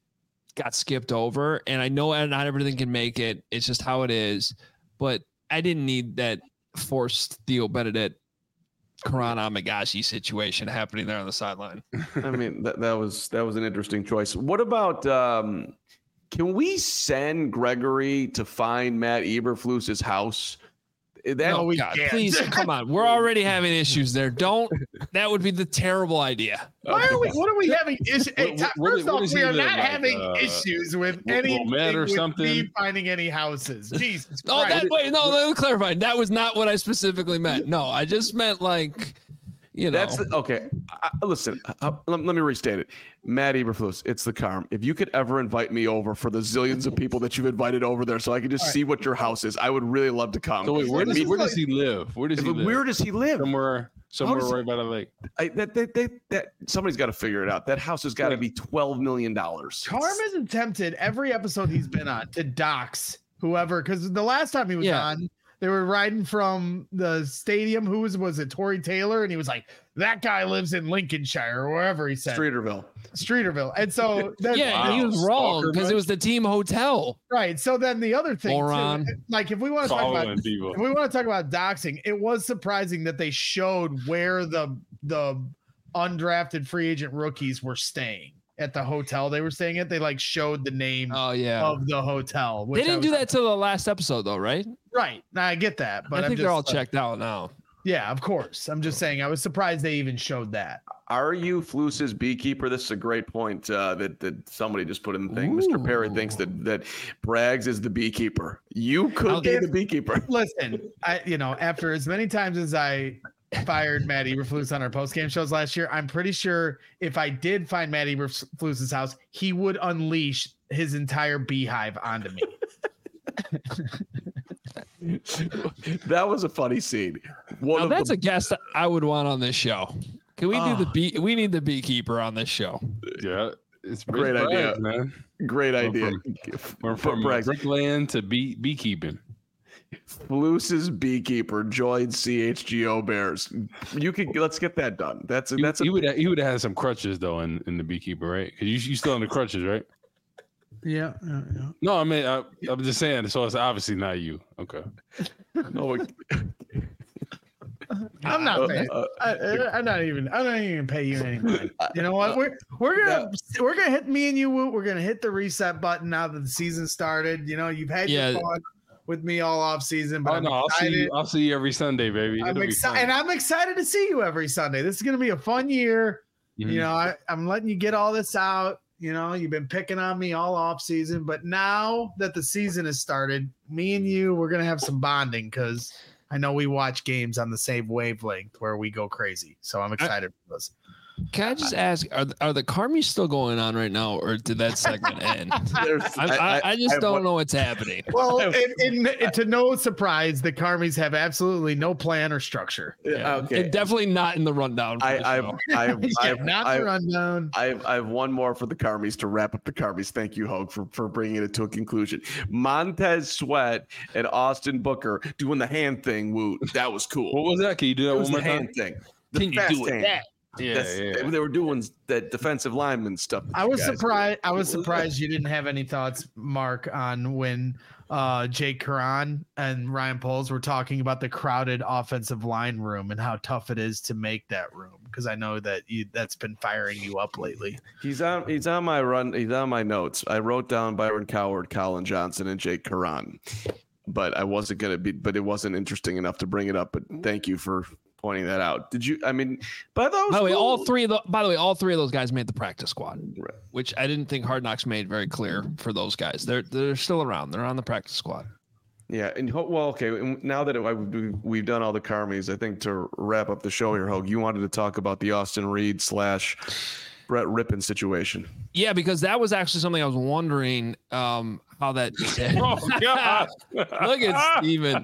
got skipped over, and I know not everything can make it. It's just how it is. But I didn't need that forced Theo Benedict, Karan Amagashi situation happening there on the sideline. I mean, that, that was that was an interesting choice. What about um, can we send Gregory to find Matt Eberflus's house? That, No, we God, can't. please come on. We're already having issues there. Don't. That would be the terrible idea. Why are we? What are we having issues? Hey, What- Ty- what- first what off, is we he are then, not like, having uh, issues with Wil- anything Wilmette or with something? me finding any houses. Jesus Oh, Christ. that wait, no, let me clarify. That was not what I specifically meant. No, I just meant like, you know. That's the, okay. I, listen, uh, let, let me restate it. Matt Eberflus, it's the Carm. If you could ever invite me over for the zillions of people that you've invited over there, so I could just All see right. what your house is, I would really love to come. So wait, where does, I mean, where does he live? Where does he live? where does he live? Somewhere, somewhere does- right by the lake. I, that, that, that, that somebody's got to figure it out. That house has got to be twelve million dollars. Carm is attempted every episode he's been on to dox whoever, because the last time he was Yeah. on, they were riding from the stadium. Who was was it? Tory Taylor, and he was like, "That guy lives in Lincolnshire or wherever he said, Streeterville. Streeterville." And so, then, Yeah, Wow. he was wrong Stalker, because man. it was the team hotel. right. So then the other thing, too, Moron. like if we want to talk Following about people. if we want to talk about doxing, it was surprising that they showed where the the undrafted free agent rookies were staying at the hotel they were staying at. They like showed the name Oh yeah. of the hotel. They which I didn't do was- that till the last episode though, right? Right. Now I get that, but I I'm think just, they're all like, checked out now. Yeah, of course. I'm just saying I was surprised they even showed that. Are you Flus's beekeeper? This is a great point uh, that that somebody just put in the thing. Mister Perry Ooh. thinks that that Braggs is the beekeeper. You could How be did- the beekeeper. Listen, I you know, after as many times as I fired Matt Eberflus on our post game shows last year, I'm pretty sure if I did find Matt Eberflus's house, he would unleash his entire beehive onto me. That was a funny scene. One Now of that's the, a guest I would want on this show. Can we do the Ah. bee? We need the beekeeper on this show. Yeah, it's Great it's idea. Braggs, man. great We're idea. We're Put from Braggs. brickland to bee beekeeping. Flus's beekeeper joins C H G O Bears. You could let's get that done. That's He, that's a, he would he would have had some crutches though in, in the beekeeper, right? Because you you still on the crutches, right? Yeah, yeah, yeah. No, I mean I, I'm just saying. So it's obviously not you. Okay. oh, I'm not uh, paying. uh, I, I'm not even. I'm not even gonna pay you any money. You know what? We're we're gonna we're gonna hit me and you. Woot. We're gonna hit the reset button now that the season started. You know, you've had Yeah. your fun with me all off season, but Oh I'm no, I'll see excited. you. I'll see you every Sunday, baby. I'm It'll be excited, fun. and I'm excited to see you every Sunday. This is gonna be a fun year. Mhm. You know, I, I'm letting you get all this out. You know, you've been picking on me all off season, but now that the season has started, me and you, we're gonna have some bonding because I know we watch games on the same wavelength where we go crazy. So I'm excited for this. Can I just ask, are are the Carmies still going on right now, or did that segment end? there's- I, I, I just have don't one- know what's happening. Well, in, in, to no surprise, the Carmies have absolutely no plan or structure. Yeah, okay. And definitely not in the rundown. for I, the I've, show. I've, Yeah, I've, not the I've, rundown. I've, I have one more for the Carmies to wrap up the Carmies. Thank you, Hogue, for, for bringing it to a conclusion. Montez Sweat and Austin Booker doing the hand thing. Woot. That was cool. What was that? Can you do that It one was more the time? hand thing. The Can you fast do it hand. that? Yeah, That's- yeah. They, they were doing that defensive lineman stuff. that I you was guys do. surprised. I was surprised you didn't have any thoughts, Mark, on when uh, Jake Curran and Ryan Poles were talking about the crowded offensive line room and how tough it is to make that room. Because I know that you, that's been firing you up lately. He's on. He's on my run. He's on my notes. I wrote down Byron Coward, Colin Johnson, and Jake Curran, but I wasn't gonna be. But it wasn't interesting enough to bring it up. But thank you for pointing that out. Did you? I mean, by those. By the way, all rules- three of the by the way, all three of those guys made the practice squad, Right. which I didn't think Hard Knocks made very clear for those guys. They're they're still around. They're on the practice squad. Yeah, and ho- well, okay. and Now that it, I, we- we've done all the Carmies, I think to wrap up the show here, Hogue, you wanted to talk about the Austin Reed slash Brett Rippon situation. Yeah, because that was actually something I was wondering um, how that. Oh God! Look at Steven.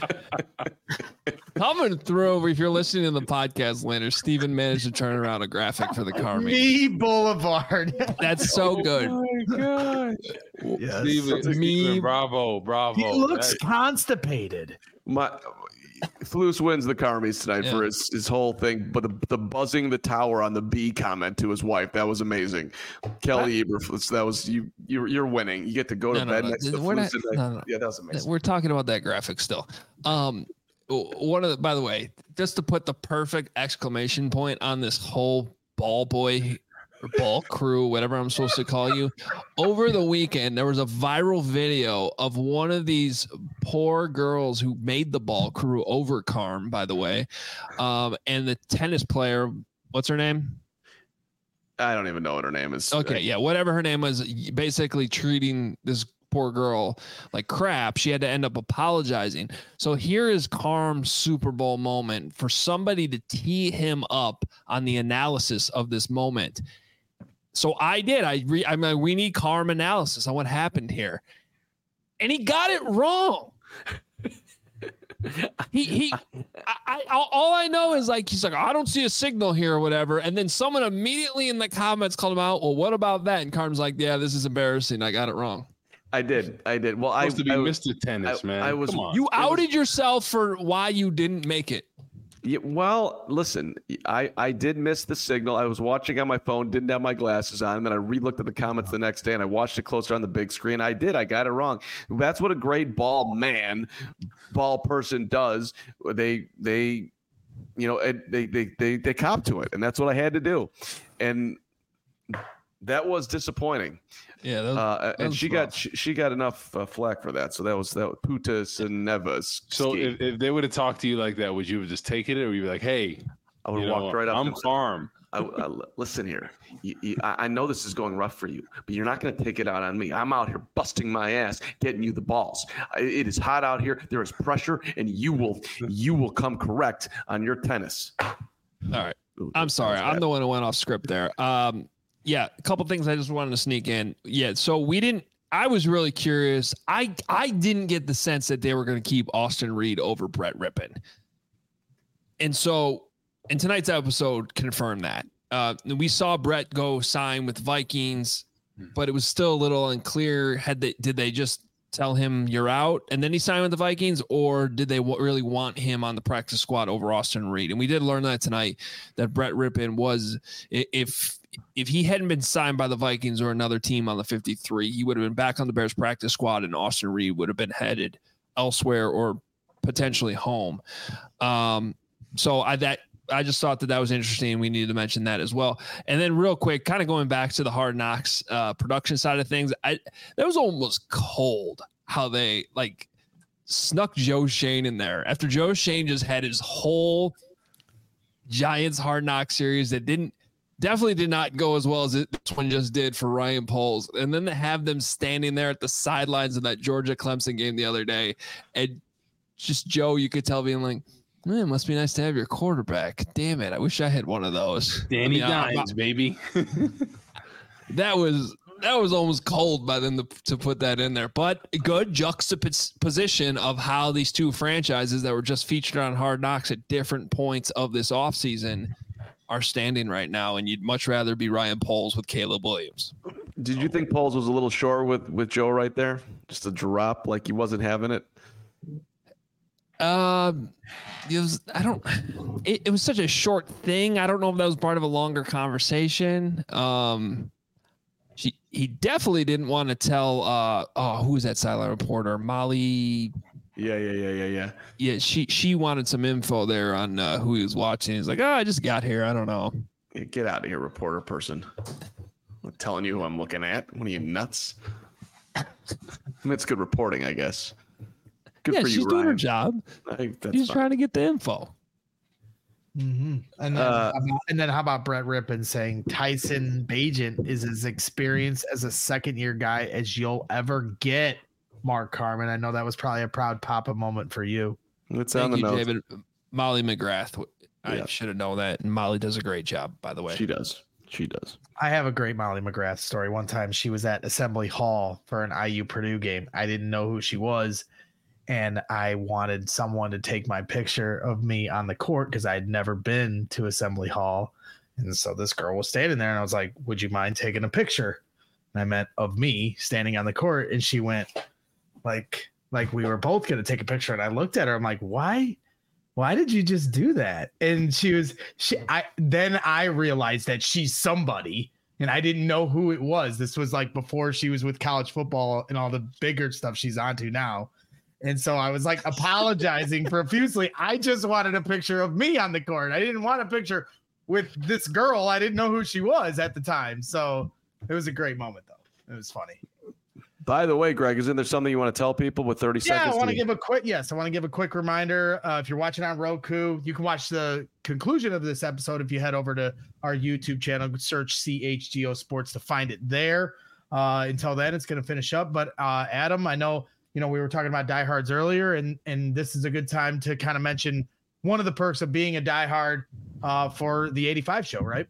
Coming through, if you're listening to the podcast later, Steven managed to turn around a graphic for the Carmies. Me Boulevard. That's so good. Oh my gosh! Yes. Steven, Me- Steven, bravo, bravo. He looks That- constipated. My Flus wins the Carmies tonight Yeah. for his, his whole thing, but the, the buzzing the tower on the B comment to his wife, that was amazing. Kelly Eberflus, that was you. You're, you're winning. You get to go to No, no, bed no. next to We're Flus. not- tonight. no, no. Yeah, that was amazing. We're talking about that graphic still. Um, one of the, by the way, just to put the perfect exclamation point on this whole ball boy or ball crew, whatever I'm supposed to call you, over the weekend, there was a viral video of one of these poor girls who made the ball crew over Carm, by the way. Um, and the tennis player, what's her name? I don't even know what her name is. Okay, yeah, whatever her name was, basically treating this poor girl like crap. She had to end up apologizing. So here is Carm's Super Bowl moment for somebody to tee him up on the analysis of this moment. So I did. I re, I mean, we need Carm analysis on what happened here, and he got it wrong. he he I, I all I know is like he's like, I don't see a signal here or whatever, and then someone immediately in the comments called him out. Well, what about that? And Carm's like, yeah, this is embarrassing. I got it wrong. I did. I did. Well, I supposed to be I, Mister Tennis, I, man. I was. Come on. You outed was, yourself for why you didn't make it. Yeah, well, listen, I, I did miss the signal. I was watching on my phone, didn't have my glasses on, and then I re-looked at the comments the next day, and I watched it closer on the big screen. I did. I got it wrong. That's what a great ball man, ball person does. They they, you know, they they they they cop to it, and that's what I had to do, and that was disappointing. Yeah, that was, uh, that and was she rough. got she, she got enough uh, flack for that. So that was that was Putas and Nevas. So if, if they would have talked to you like that, would you have just taken it, or you'd be like, "Hey, I would you have know, walked right up. I'm and- Carm." I, I, listen here. You, you, I I know this is going rough for you, but you're not going to take it out on me. I'm out here busting my ass, getting you the balls. I, it is hot out here. There is pressure, and you will you will come correct on your tennis. All right. I'm sorry. I'm the one who went off script there. Um, yeah, a couple things I just wanted to sneak in. Yeah, so we didn't. I was really curious. I I didn't get the sense that they were going to keep Austin Reed over Brett Rippon, and so in tonight's episode confirmed that. Uh, we saw Brett go sign with Vikings, but it was still a little unclear. Had they did they just tell him you're out and then he signed with the Vikings, or did they w- really want him on the practice squad over Austin Reed? And we did learn that tonight, that Brett Rippon was, if if he hadn't been signed by the Vikings or another team on the fifty-three, he would have been back on the Bears practice squad, and Austin Reed would have been headed elsewhere or potentially home. Um, so I that I just thought that that was interesting. We needed to mention that as well. And then real quick, kind of going back to the Hard Knocks uh, production side of things, I that was almost cold how they like snuck Joe Shane in there after Joe Shane just had his whole Giants Hard Knock series that didn't definitely did not go as well as this one just did for Ryan Poles. And then to have them standing there at the sidelines of that Georgia Clemson game the other day, and just Joe, you could tell being like, man, it must be nice to have your quarterback. Damn it. I wish I had one of those. Danny I mean, Dimes, baby. that was that was almost cold by them to, to put that in there. But good juxtaposition of how these two franchises that were just featured on Hard Knocks at different points of this offseason are standing right now. And you'd much rather be Ryan Poles with Caleb Williams. Did you think Poles was a little short with, with Joe right there? Just a drop, like he wasn't having it? Um, it was, I don't, it, it was such a short thing. I don't know if that was part of a longer conversation. Um, she, he definitely didn't want to tell, uh, oh, who was that sideline reporter? Molly. Yeah, yeah, yeah, yeah, yeah. Yeah. She, she wanted some info there on uh, who he was watching. He's like, oh, I just got here. I don't know. Yeah, get out of here, reporter person. I'm telling you who I'm looking at. What are you, nuts? I mean, it's good reporting, I guess. Good yeah, for you, she's doing Ryan. her job. I think that's She's fine. trying to get the info. Mm-hmm. And then, Uh, how about, and then how about Brett Rippon saying Tyson Bagent is as experienced as a second year guy as you'll ever get, Mark Carman. I know that was probably a proud papa moment for you. It's on Thank the you, notes. David. Molly McGrath. I Yeah. should have known that. And Molly does a great job, by the way. She does. She does. I have a great Molly McGrath story. One time she was at Assembly Hall for an I U Purdue game. I didn't know who she was, and I wanted someone to take my picture of me on the court because I had never been to Assembly Hall. And so this girl was standing there, and I was like, would you mind taking a picture? And I meant of me standing on the court, and she went like, like we were both going to take a picture. And I looked at her, I'm like, why? Why did you just do that? And she was, she, I, then I realized that she's somebody, and I didn't know who it was. This was like before she was with college football and all the bigger stuff she's onto now. And so I was like apologizing profusely. I just wanted a picture of me on the court. I didn't want a picture with this girl. I didn't know who she was at the time. So it was a great moment though. It was funny. By the way, Greg, isn't there something you want to tell people with thirty Yeah, seconds? I want to to- give a quick yes. I want to give a quick reminder. Uh, if you're watching on Roku, you can watch the conclusion of this episode if you head over to our YouTube channel, search C H G O Sports to find it there. Uh, until then, it's going to finish up. But uh, Adam, I know, you know, we were talking about diehards earlier, and and this is a good time to kind of mention one of the perks of being a diehard uh, for the eighty-five show, right?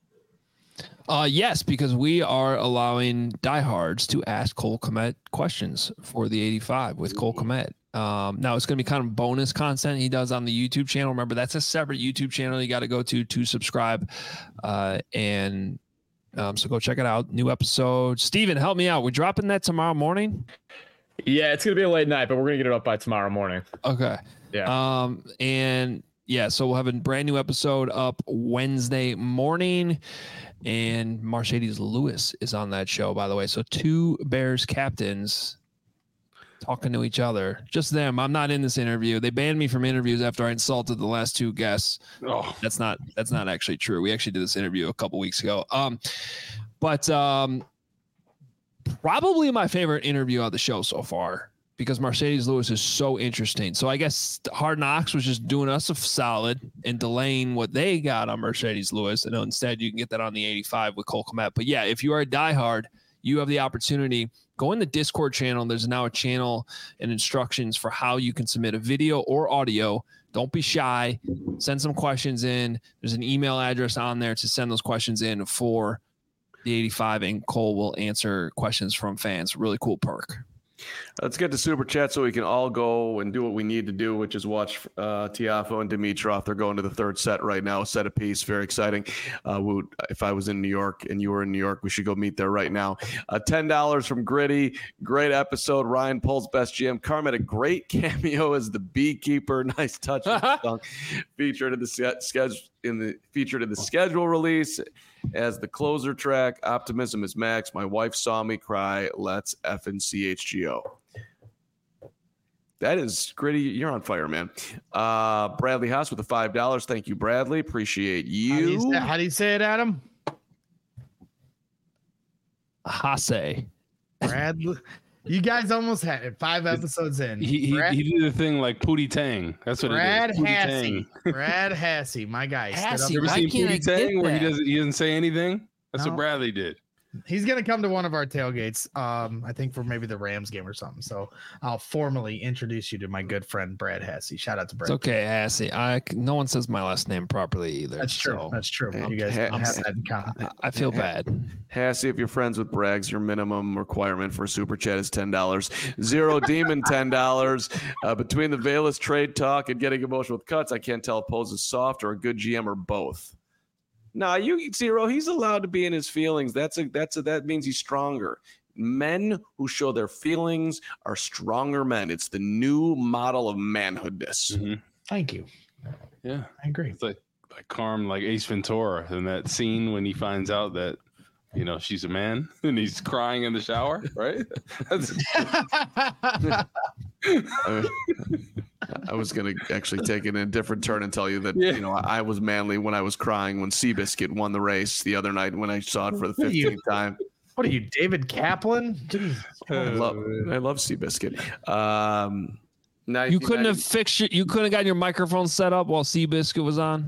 Uh, yes, because we are allowing diehards to ask Cole Kmet questions for the eighty-five with Cole Kmet. Um, now it's going to be kind of bonus content he does on the YouTube channel. Remember, that's a separate YouTube channel you got to go to to subscribe. Uh, and um, so go check it out. New episode. Steven, help me out. We're dropping that tomorrow morning. Yeah, it's gonna be a late night, but we're gonna get it up by tomorrow morning. Okay. Yeah. Um, and yeah, so we'll have a brand new episode up Wednesday morning. And Mercedes Lewis is on that show, by the way. So two Bears captains talking to each other, just them. I'm not in this interview. They banned me from interviews after I insulted the last two guests. Oh, that's not that's not actually true. We actually did this interview a couple weeks ago. Um, but um, probably my favorite interview on the show so far, because Mercedes Lewis is so interesting. So I guess Hard Knocks was just doing us a solid and delaying what they got on Mercedes Lewis. And instead you can get that on the eighty-five with Cole Kmet. But yeah, if you are a diehard, you have the opportunity. Go in the Discord channel. There's now a channel and instructions for how you can submit a video or audio. Don't be shy. Send some questions in. There's an email address on there to send those questions in for the eighty-five, and Cole will answer questions from fans. Really cool perk. Let's get to Super Chat so we can all go and do what we need to do, which is watch uh, Tiafoe and Dimitrov. They're going to the third set right now, set apiece. Very exciting. Uh, Woot, if I was in New York and you were in New York, we should go meet there right now. Uh, ten dollars from Gritty. Great episode. Ryan Poles, best G M. Carm had a great cameo as the beekeeper. Nice touch. Song. Featured in the schedule. In the featured in the schedule release as the closer track. Optimism is max. My wife saw me cry. Let's effing C H G O. That is Gritty. You're on fire, man. Uh, Bradley Haas with the five dollars. Thank you, Bradley. Appreciate you. How do you say, how do you say it, Adam? Hase. Bradley. You guys almost had it. Five episodes in. He he, Brad, he did the thing like Pootie Tang. That's what Brad it is. Pootie Hasse. Tang. Brad Hasse, my guy. stood Hasse, up- You ever Why seen can't I Pootie Tang get where he that? doesn't he doesn't say anything? That's No. what Bradley did. He's gonna come to one of our tailgates. Um, I think for maybe the Rams game or something. So I'll formally introduce you to my good friend Brad Hasse. Shout out to Brad. It's okay, Hasse. I no one says my last name properly either. That's true. so That's true. Hey, You guys hey, don't have that in common. I feel bad. Hassy, if you're friends with Braggs, your minimum requirement for a super chat is ten dollars. Zero Demon, ten dollars. Uh, between the Velas trade talk and getting emotional with cuts, I can't tell if Pose is soft or a good G M or both. Nah, you Zero, he's allowed to be in his feelings. That's a that's a that means he's stronger. Men who show their feelings are stronger men. It's the new model of manhoodness. Mm-hmm. Thank you. Yeah, I agree. it's like like Carm, like Ace Ventura in that scene when he finds out that you know she's a man and he's crying in the shower, right? That's, I, I was going to actually take it in a different turn and tell you that, Yeah. you know, I was manly when I was crying when Seabiscuit won the race the other night when I saw it for the What are you- fifteenth time. What are you, David Kaplan? Jeez. I love, I love Seabiscuit. Um, You couldn't have fixed your, you couldn't have gotten your microphone set up while Seabiscuit was on.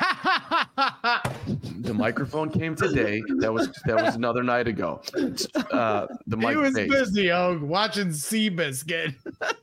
The microphone came today. That was that was another night ago. Uh, the He mic was fake. busy, oh, watching Seabiscuit.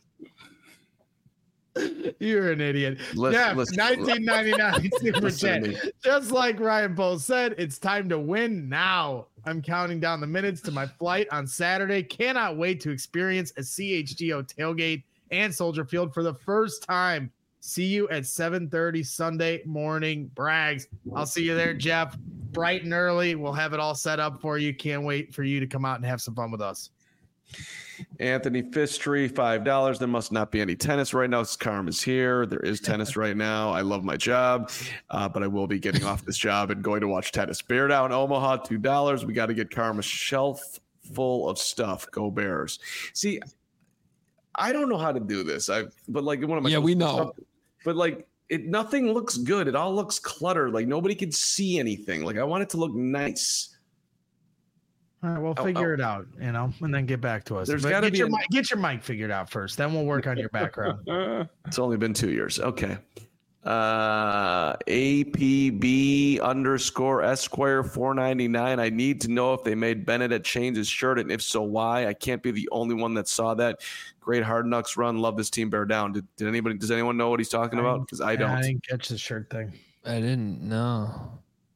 You're an idiot. Listen- yeah, listen- nineteen ninety-nine super Listen to chat. me. Just like Ryan Poles said, it's time to win now. I'm counting down the minutes to my flight on Saturday. Cannot wait to experience a C H G O tailgate and Soldier Field for the first time. See you at seven thirty Sunday morning, Braggs. I'll see you there, Jeff. Bright and early. We'll have it all set up for you. Can't wait for you to come out and have some fun with us. Anthony Fistry, five dollars. There must not be any tennis right now. Carm is here. There is tennis right now. I love my job, uh, but I will be getting off this job and going to watch tennis. Bear Down Omaha, two dollars. We got to get Carm a shelf full of stuff. Go Bears. See, I don't know how to do this. I but like one of my Yeah, we know. But like it, nothing looks good. It all looks cluttered. Like nobody can see anything. Like I want it to look nice. All right, we'll Oh, figure oh. it out, you know, and then get back to us. There's But gotta get be your a- mic, get your mic figured out first. Then we'll work on your background. uh, It's only been two years. Okay. Uh, A P B underscore Esquire four ninety-nine. I need to know if they made Benedict change his shirt, and if so, why? I can't be the only one that saw that. Great Hard Knocks run. Love this team. Bear down. Did, did anybody? Does anyone know what he's talking about? Because I don't. I didn't catch the shirt thing. I didn't know.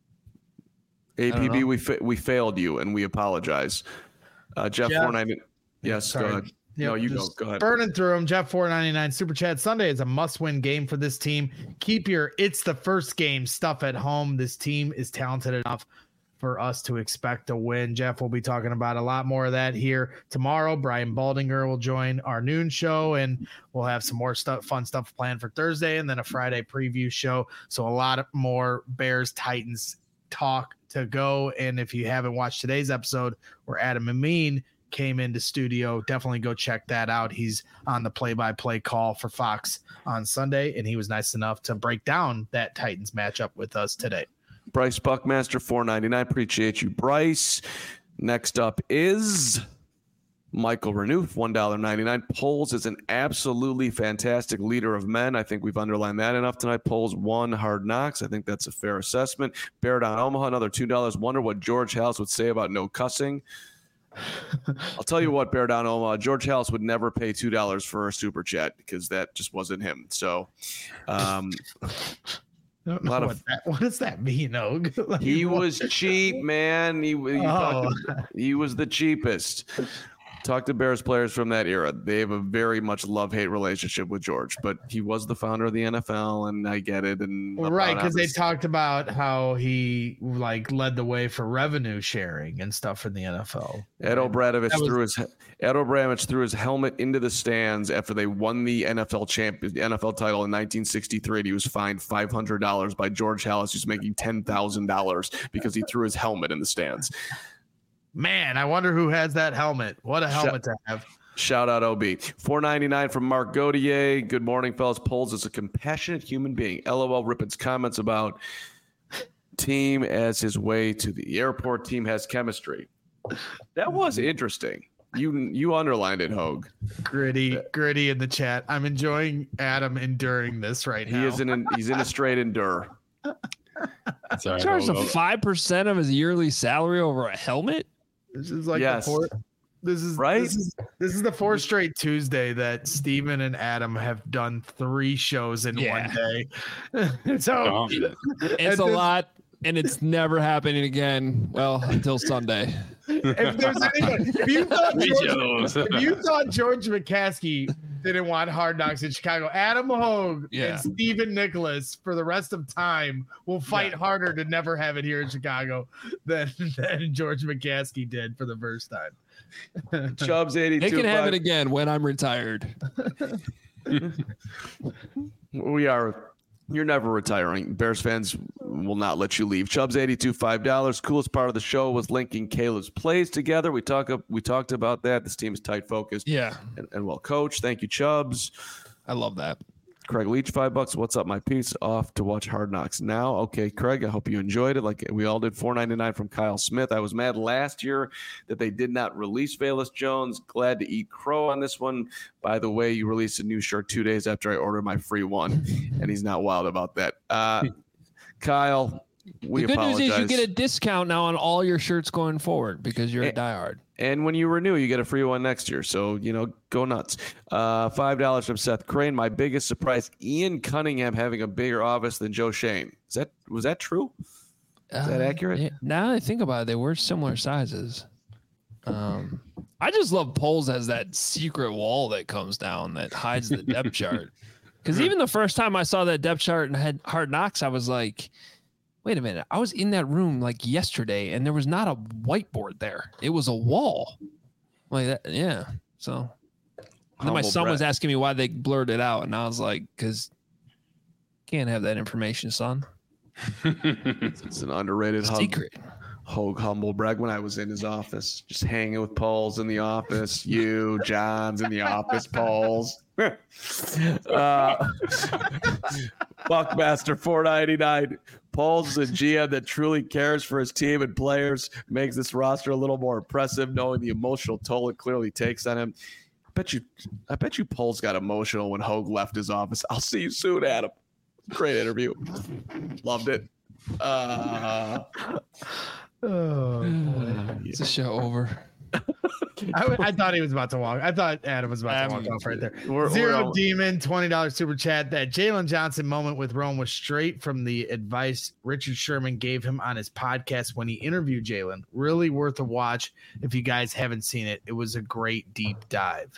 A P B, we fa- we failed you, and we apologize. Uh, Jeff, Jeff. four ninety. Yes, Sorry. go ahead. Yep, no, you go. just Go ahead. Burning through them. Jeff four ninety-nine Super Chat. Sunday is a must-win game for this team. Keep your it's the first game stuff at home. This team is talented enough for us to expect a win. Jeff will be talking about a lot more of that here tomorrow. Brian Baldinger will join our noon show, and we'll have some more stuff, fun stuff planned for Thursday, and then a Friday preview show. So a lot of more Bears Titans talk to go. And if you haven't watched today's episode where Adam Amin came into studio, definitely go check that out. He's on the play-by-play call for Fox on Sunday, and he was nice enough to break down that Titans matchup with us today. Bryce Buckmaster, four ninety-nine. Appreciate you, Bryce. Next up is Michael Renouf, one ninety-nine. Poles is an absolutely fantastic leader of men. I think we've underlined that enough tonight. Poles won Hard Knocks. I think that's a fair assessment. Bear Down Omaha, another two dollars. Wonder what George House would say about no cussing. I'll tell you what, Bear Down Omaha, George House would never pay two dollars for a super chat because that just wasn't him. So, um, I don't know lot what, of- that, what does that mean, Og? Like, he what- was cheap, man. He, he, Oh. talked- he was the cheapest. Talk to Bears players from that era. They have a very much love-hate relationship with George, but he was the founder of the N F L, and I get it. And Well, right, because they obvious- talked about how he like led the way for revenue sharing and stuff in the N F L. Ed O'Bradovich That was- threw his Ed O'Bradovich threw his helmet into the stands after they won the N F L champ N F L title in nineteen sixty-three. And he was fined five hundred dollars by George Halas, who's making ten thousand dollars because he threw his helmet in the stands. Man, I wonder who has that helmet. What a helmet to have. Shout out O B. four ninety-nine from Mark Gaudier. Good morning, fellas. Poles is a compassionate human being. LOL Rippen's comments about team as his way to the airport. Team has chemistry. That was interesting. You you underlined it, Hogue. Gritty, gritty in the chat. I'm enjoying Adam enduring this right He now. is in an, he's in a straight endure. Sorry, Charged I'll- a five percent of his yearly salary over a helmet. This is like Yes. the fourth. This is Right? This is, this is the fourth straight Tuesday that Steven and Adam have done three shows in Yeah. one day. so Uh-huh. It's And a this- lot, and it's never happening again. Well, until Sunday. if there's anybody, if you thought Me George, jealous. if you thought George McCaskey didn't want Hard Knocks in Chicago, Adam Hogue Yeah. and Stephen Nicholas for the rest of time will fight Yeah. harder to never have it here in Chicago than, than George McCaskey did for the first time. Chubbs eighty-two. They can have five. it again when I'm retired. We are. You're never retiring. Bears fans will not let you leave. Chubbs eighty-two, five dollars. Coolest part of the show was linking Caleb's plays together. We talk we talked about that. This team is tight focused Yeah, and, and well coached. Thank you, Chubbs. I love that. Craig Leach, five bucks. What's up, my piece? Off to watch Hard Knocks now. Okay, Craig, I hope you enjoyed it. Like we all did. four ninety-nine from Kyle Smith. I was mad last year that they did not release Velus Jones. Glad to eat crow on this one. By the way, you released a new shirt two days after I ordered my free one, and he's not wild about that. Uh, Kyle, we the good apologize. news is you get a discount now on all your shirts going forward because you're a Eh, diehard. And when you renew, you get a free one next year. So, you know, go nuts. Uh, five dollars from Seth Crane. My biggest surprise, Ian Cunningham having a bigger office than Joe Shane. Is that was that true? Is that accurate? Yeah, now that I think about it, they were similar sizes. Um, I just love Poles as that secret wall that comes down that hides the depth chart. Because even the first time I saw that depth chart and had Hard Knocks, I was like, wait a minute. I was in that room like yesterday and there was not a whiteboard there. It was a wall. Like that. Yeah. So and then my Humble son was brag. asking me why they blurred it out. And I was like, because can't have that information, son. It's an underrated hub. Secret. Hogue humble brag when I was in his office, just hanging with Pauls in the office. You, John's in the office, Pauls. uh, Buckmaster four ninety-nine. Pauls is a G M that truly cares for his team and players, makes this roster a little more impressive, knowing the emotional toll it clearly takes on him. I bet you, I bet you, Pauls got emotional when Hogue left his office. I'll see you soon, Adam. Great interview. Loved it. Uh, Oh, It's a show over. I, I thought he was about to walk. I thought Adam was about to Um, walk off right there. we're- Zero we're all- Demon, twenty dollars super chat. That Jalen Johnson moment with Rome was straight from the advice Richard Sherman gave him on his podcast when he interviewed Jalen. Really worth a watch if you guys haven't seen it. It was a great deep dive.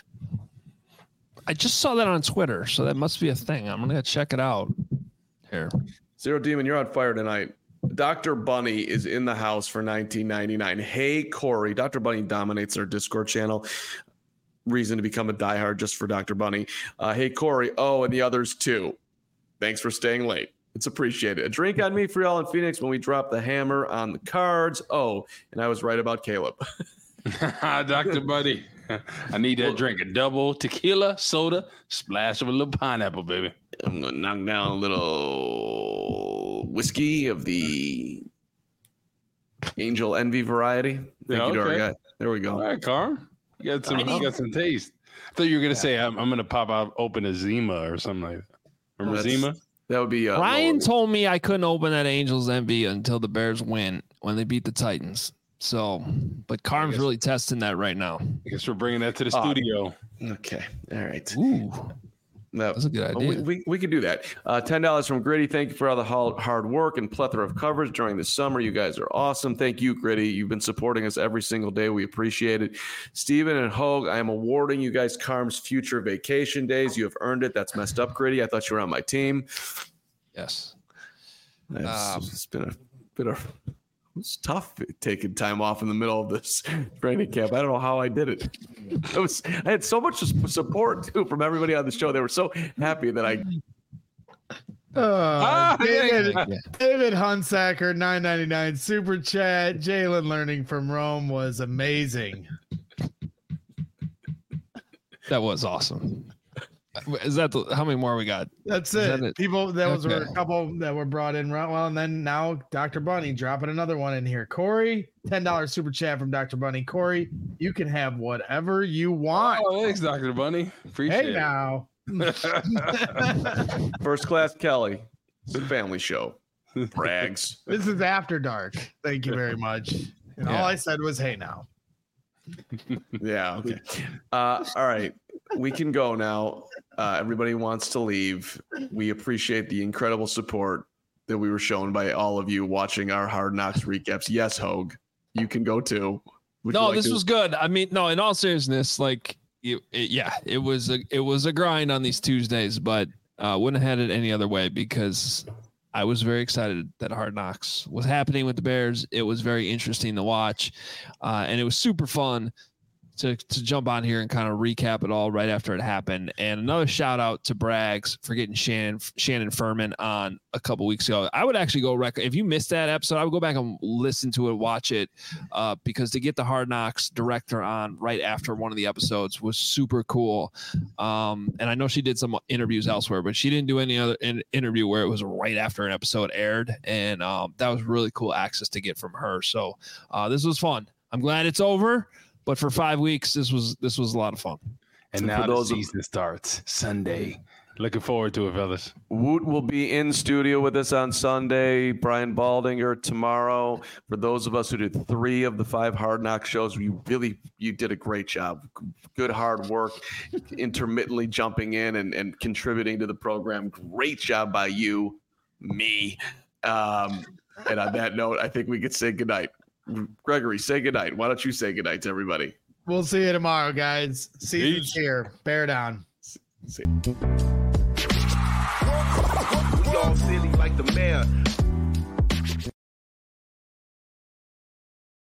I just saw that on Twitter, so that must be a thing. I'm gonna check it out. Here. Zero Demon, you're on fire tonight. Doctor Bunny is in the house for nineteen ninety-nine. Hey, Corey. Doctor Bunny dominates our Discord channel. Reason to become a diehard just for Doctor Bunny. Uh, hey, Corey. Oh, and the others too. Thanks for staying late. It's appreciated. A drink on me for y'all in Phoenix when we drop the hammer on the cards. Oh, and I was right about Caleb. Doctor Buddy. I need that drink. A double tequila, soda, splash of a little pineapple, baby. I'm going to knock down a little whiskey of the Angel Envy variety. Thank Yeah, you to our okay. guy. There we go. All right, Carm. You got some, you got some taste. I thought you were going to say, I'm, I'm going to pop out, open a Zima or something like that. Remember That's- Zima? That would be uh, Ryan lower. told me I couldn't open that Angels Envy until the Bears win when they beat the Titans. So, but Carm's guess- really testing that right now. I guess we're bringing that to the Uh, studio. Okay. All right. Ooh, No, that's a good we, idea. we, we could do that. Uh, ten dollars from Gritty. Thank you for all the hard hard work and plethora of coverage during the summer. You guys are awesome. Thank you, Gritty. You've been supporting us every single day. We appreciate it. Steven and Hogue, I am awarding you guys Carm's future vacation days. You have earned it. That's messed up, Gritty. I thought you were on my team. Yes. It's, Um, it's been a been a it's tough taking time off in the middle of this training camp. I don't know how I did it. It was I had so much support too from everybody on the show. They were so happy that I Uh, Ah, David, Yeah. David Hunsacker, nine ninety-nine super chat. Jalen learning from Rome was amazing. That was awesome. Is that the, how many more we got? That's Is it. that it? People, that was Okay. a couple that were brought in. right- Well, and then now Doctor Bunny dropping another one in here. Corey, ten dollars super chat from Doctor Bunny. Corey, you can have whatever you want. Oh, thanks, Doctor Bunny. Appreciate Hey it. now. First Class Kelly. It's a family show. Brags. This is After Dark. Thank you very much. And Yeah. all I said was, hey now. Yeah. Okay. Uh, all right. We can go now. Uh, everybody wants to leave. We appreciate the incredible support that we were shown by all of you watching our Hard Knocks recaps. Yes, Hogue, you can go too. Would you No, like this to- was good. I mean, no, in all seriousness, like, it, it, yeah, it was a it was a grind on these Tuesdays, but uh, wouldn't have had it any other way because I was very excited that Hard Knocks was happening with the Bears. It was very interesting to watch, uh, and it was super fun to to jump on here and kind of recap it all right after it happened. And another shout out to Braggs for getting Shannon Shannon Furman on a couple weeks ago. I would actually go rec- if you missed that episode, I would go back and listen to it, watch it, uh, because to get the Hard Knocks director on right after one of the episodes was super cool. Um, and I know she did some interviews elsewhere, but she didn't do any other in- interview where it was right after an episode aired, and um, that was really cool access to get from her. So uh, this was fun. I'm glad it's over. But for five weeks, this was this was a lot of fun. And For now the those of- season starts Sunday. Looking forward to it, fellas. Woot will be in studio with us on Sunday. Brian Baldinger tomorrow. For those of us who did three of the five Hard Knock shows, you really you did a great job. Good hard work, intermittently jumping in and, and contributing to the program. Great job by you, me. Um, and on that note, I think we could say goodnight. Gregory, say goodnight. Why don't you say goodnight to everybody? We'll see you tomorrow, guys. Season's here. Bear down. See- We all silly like the mayor.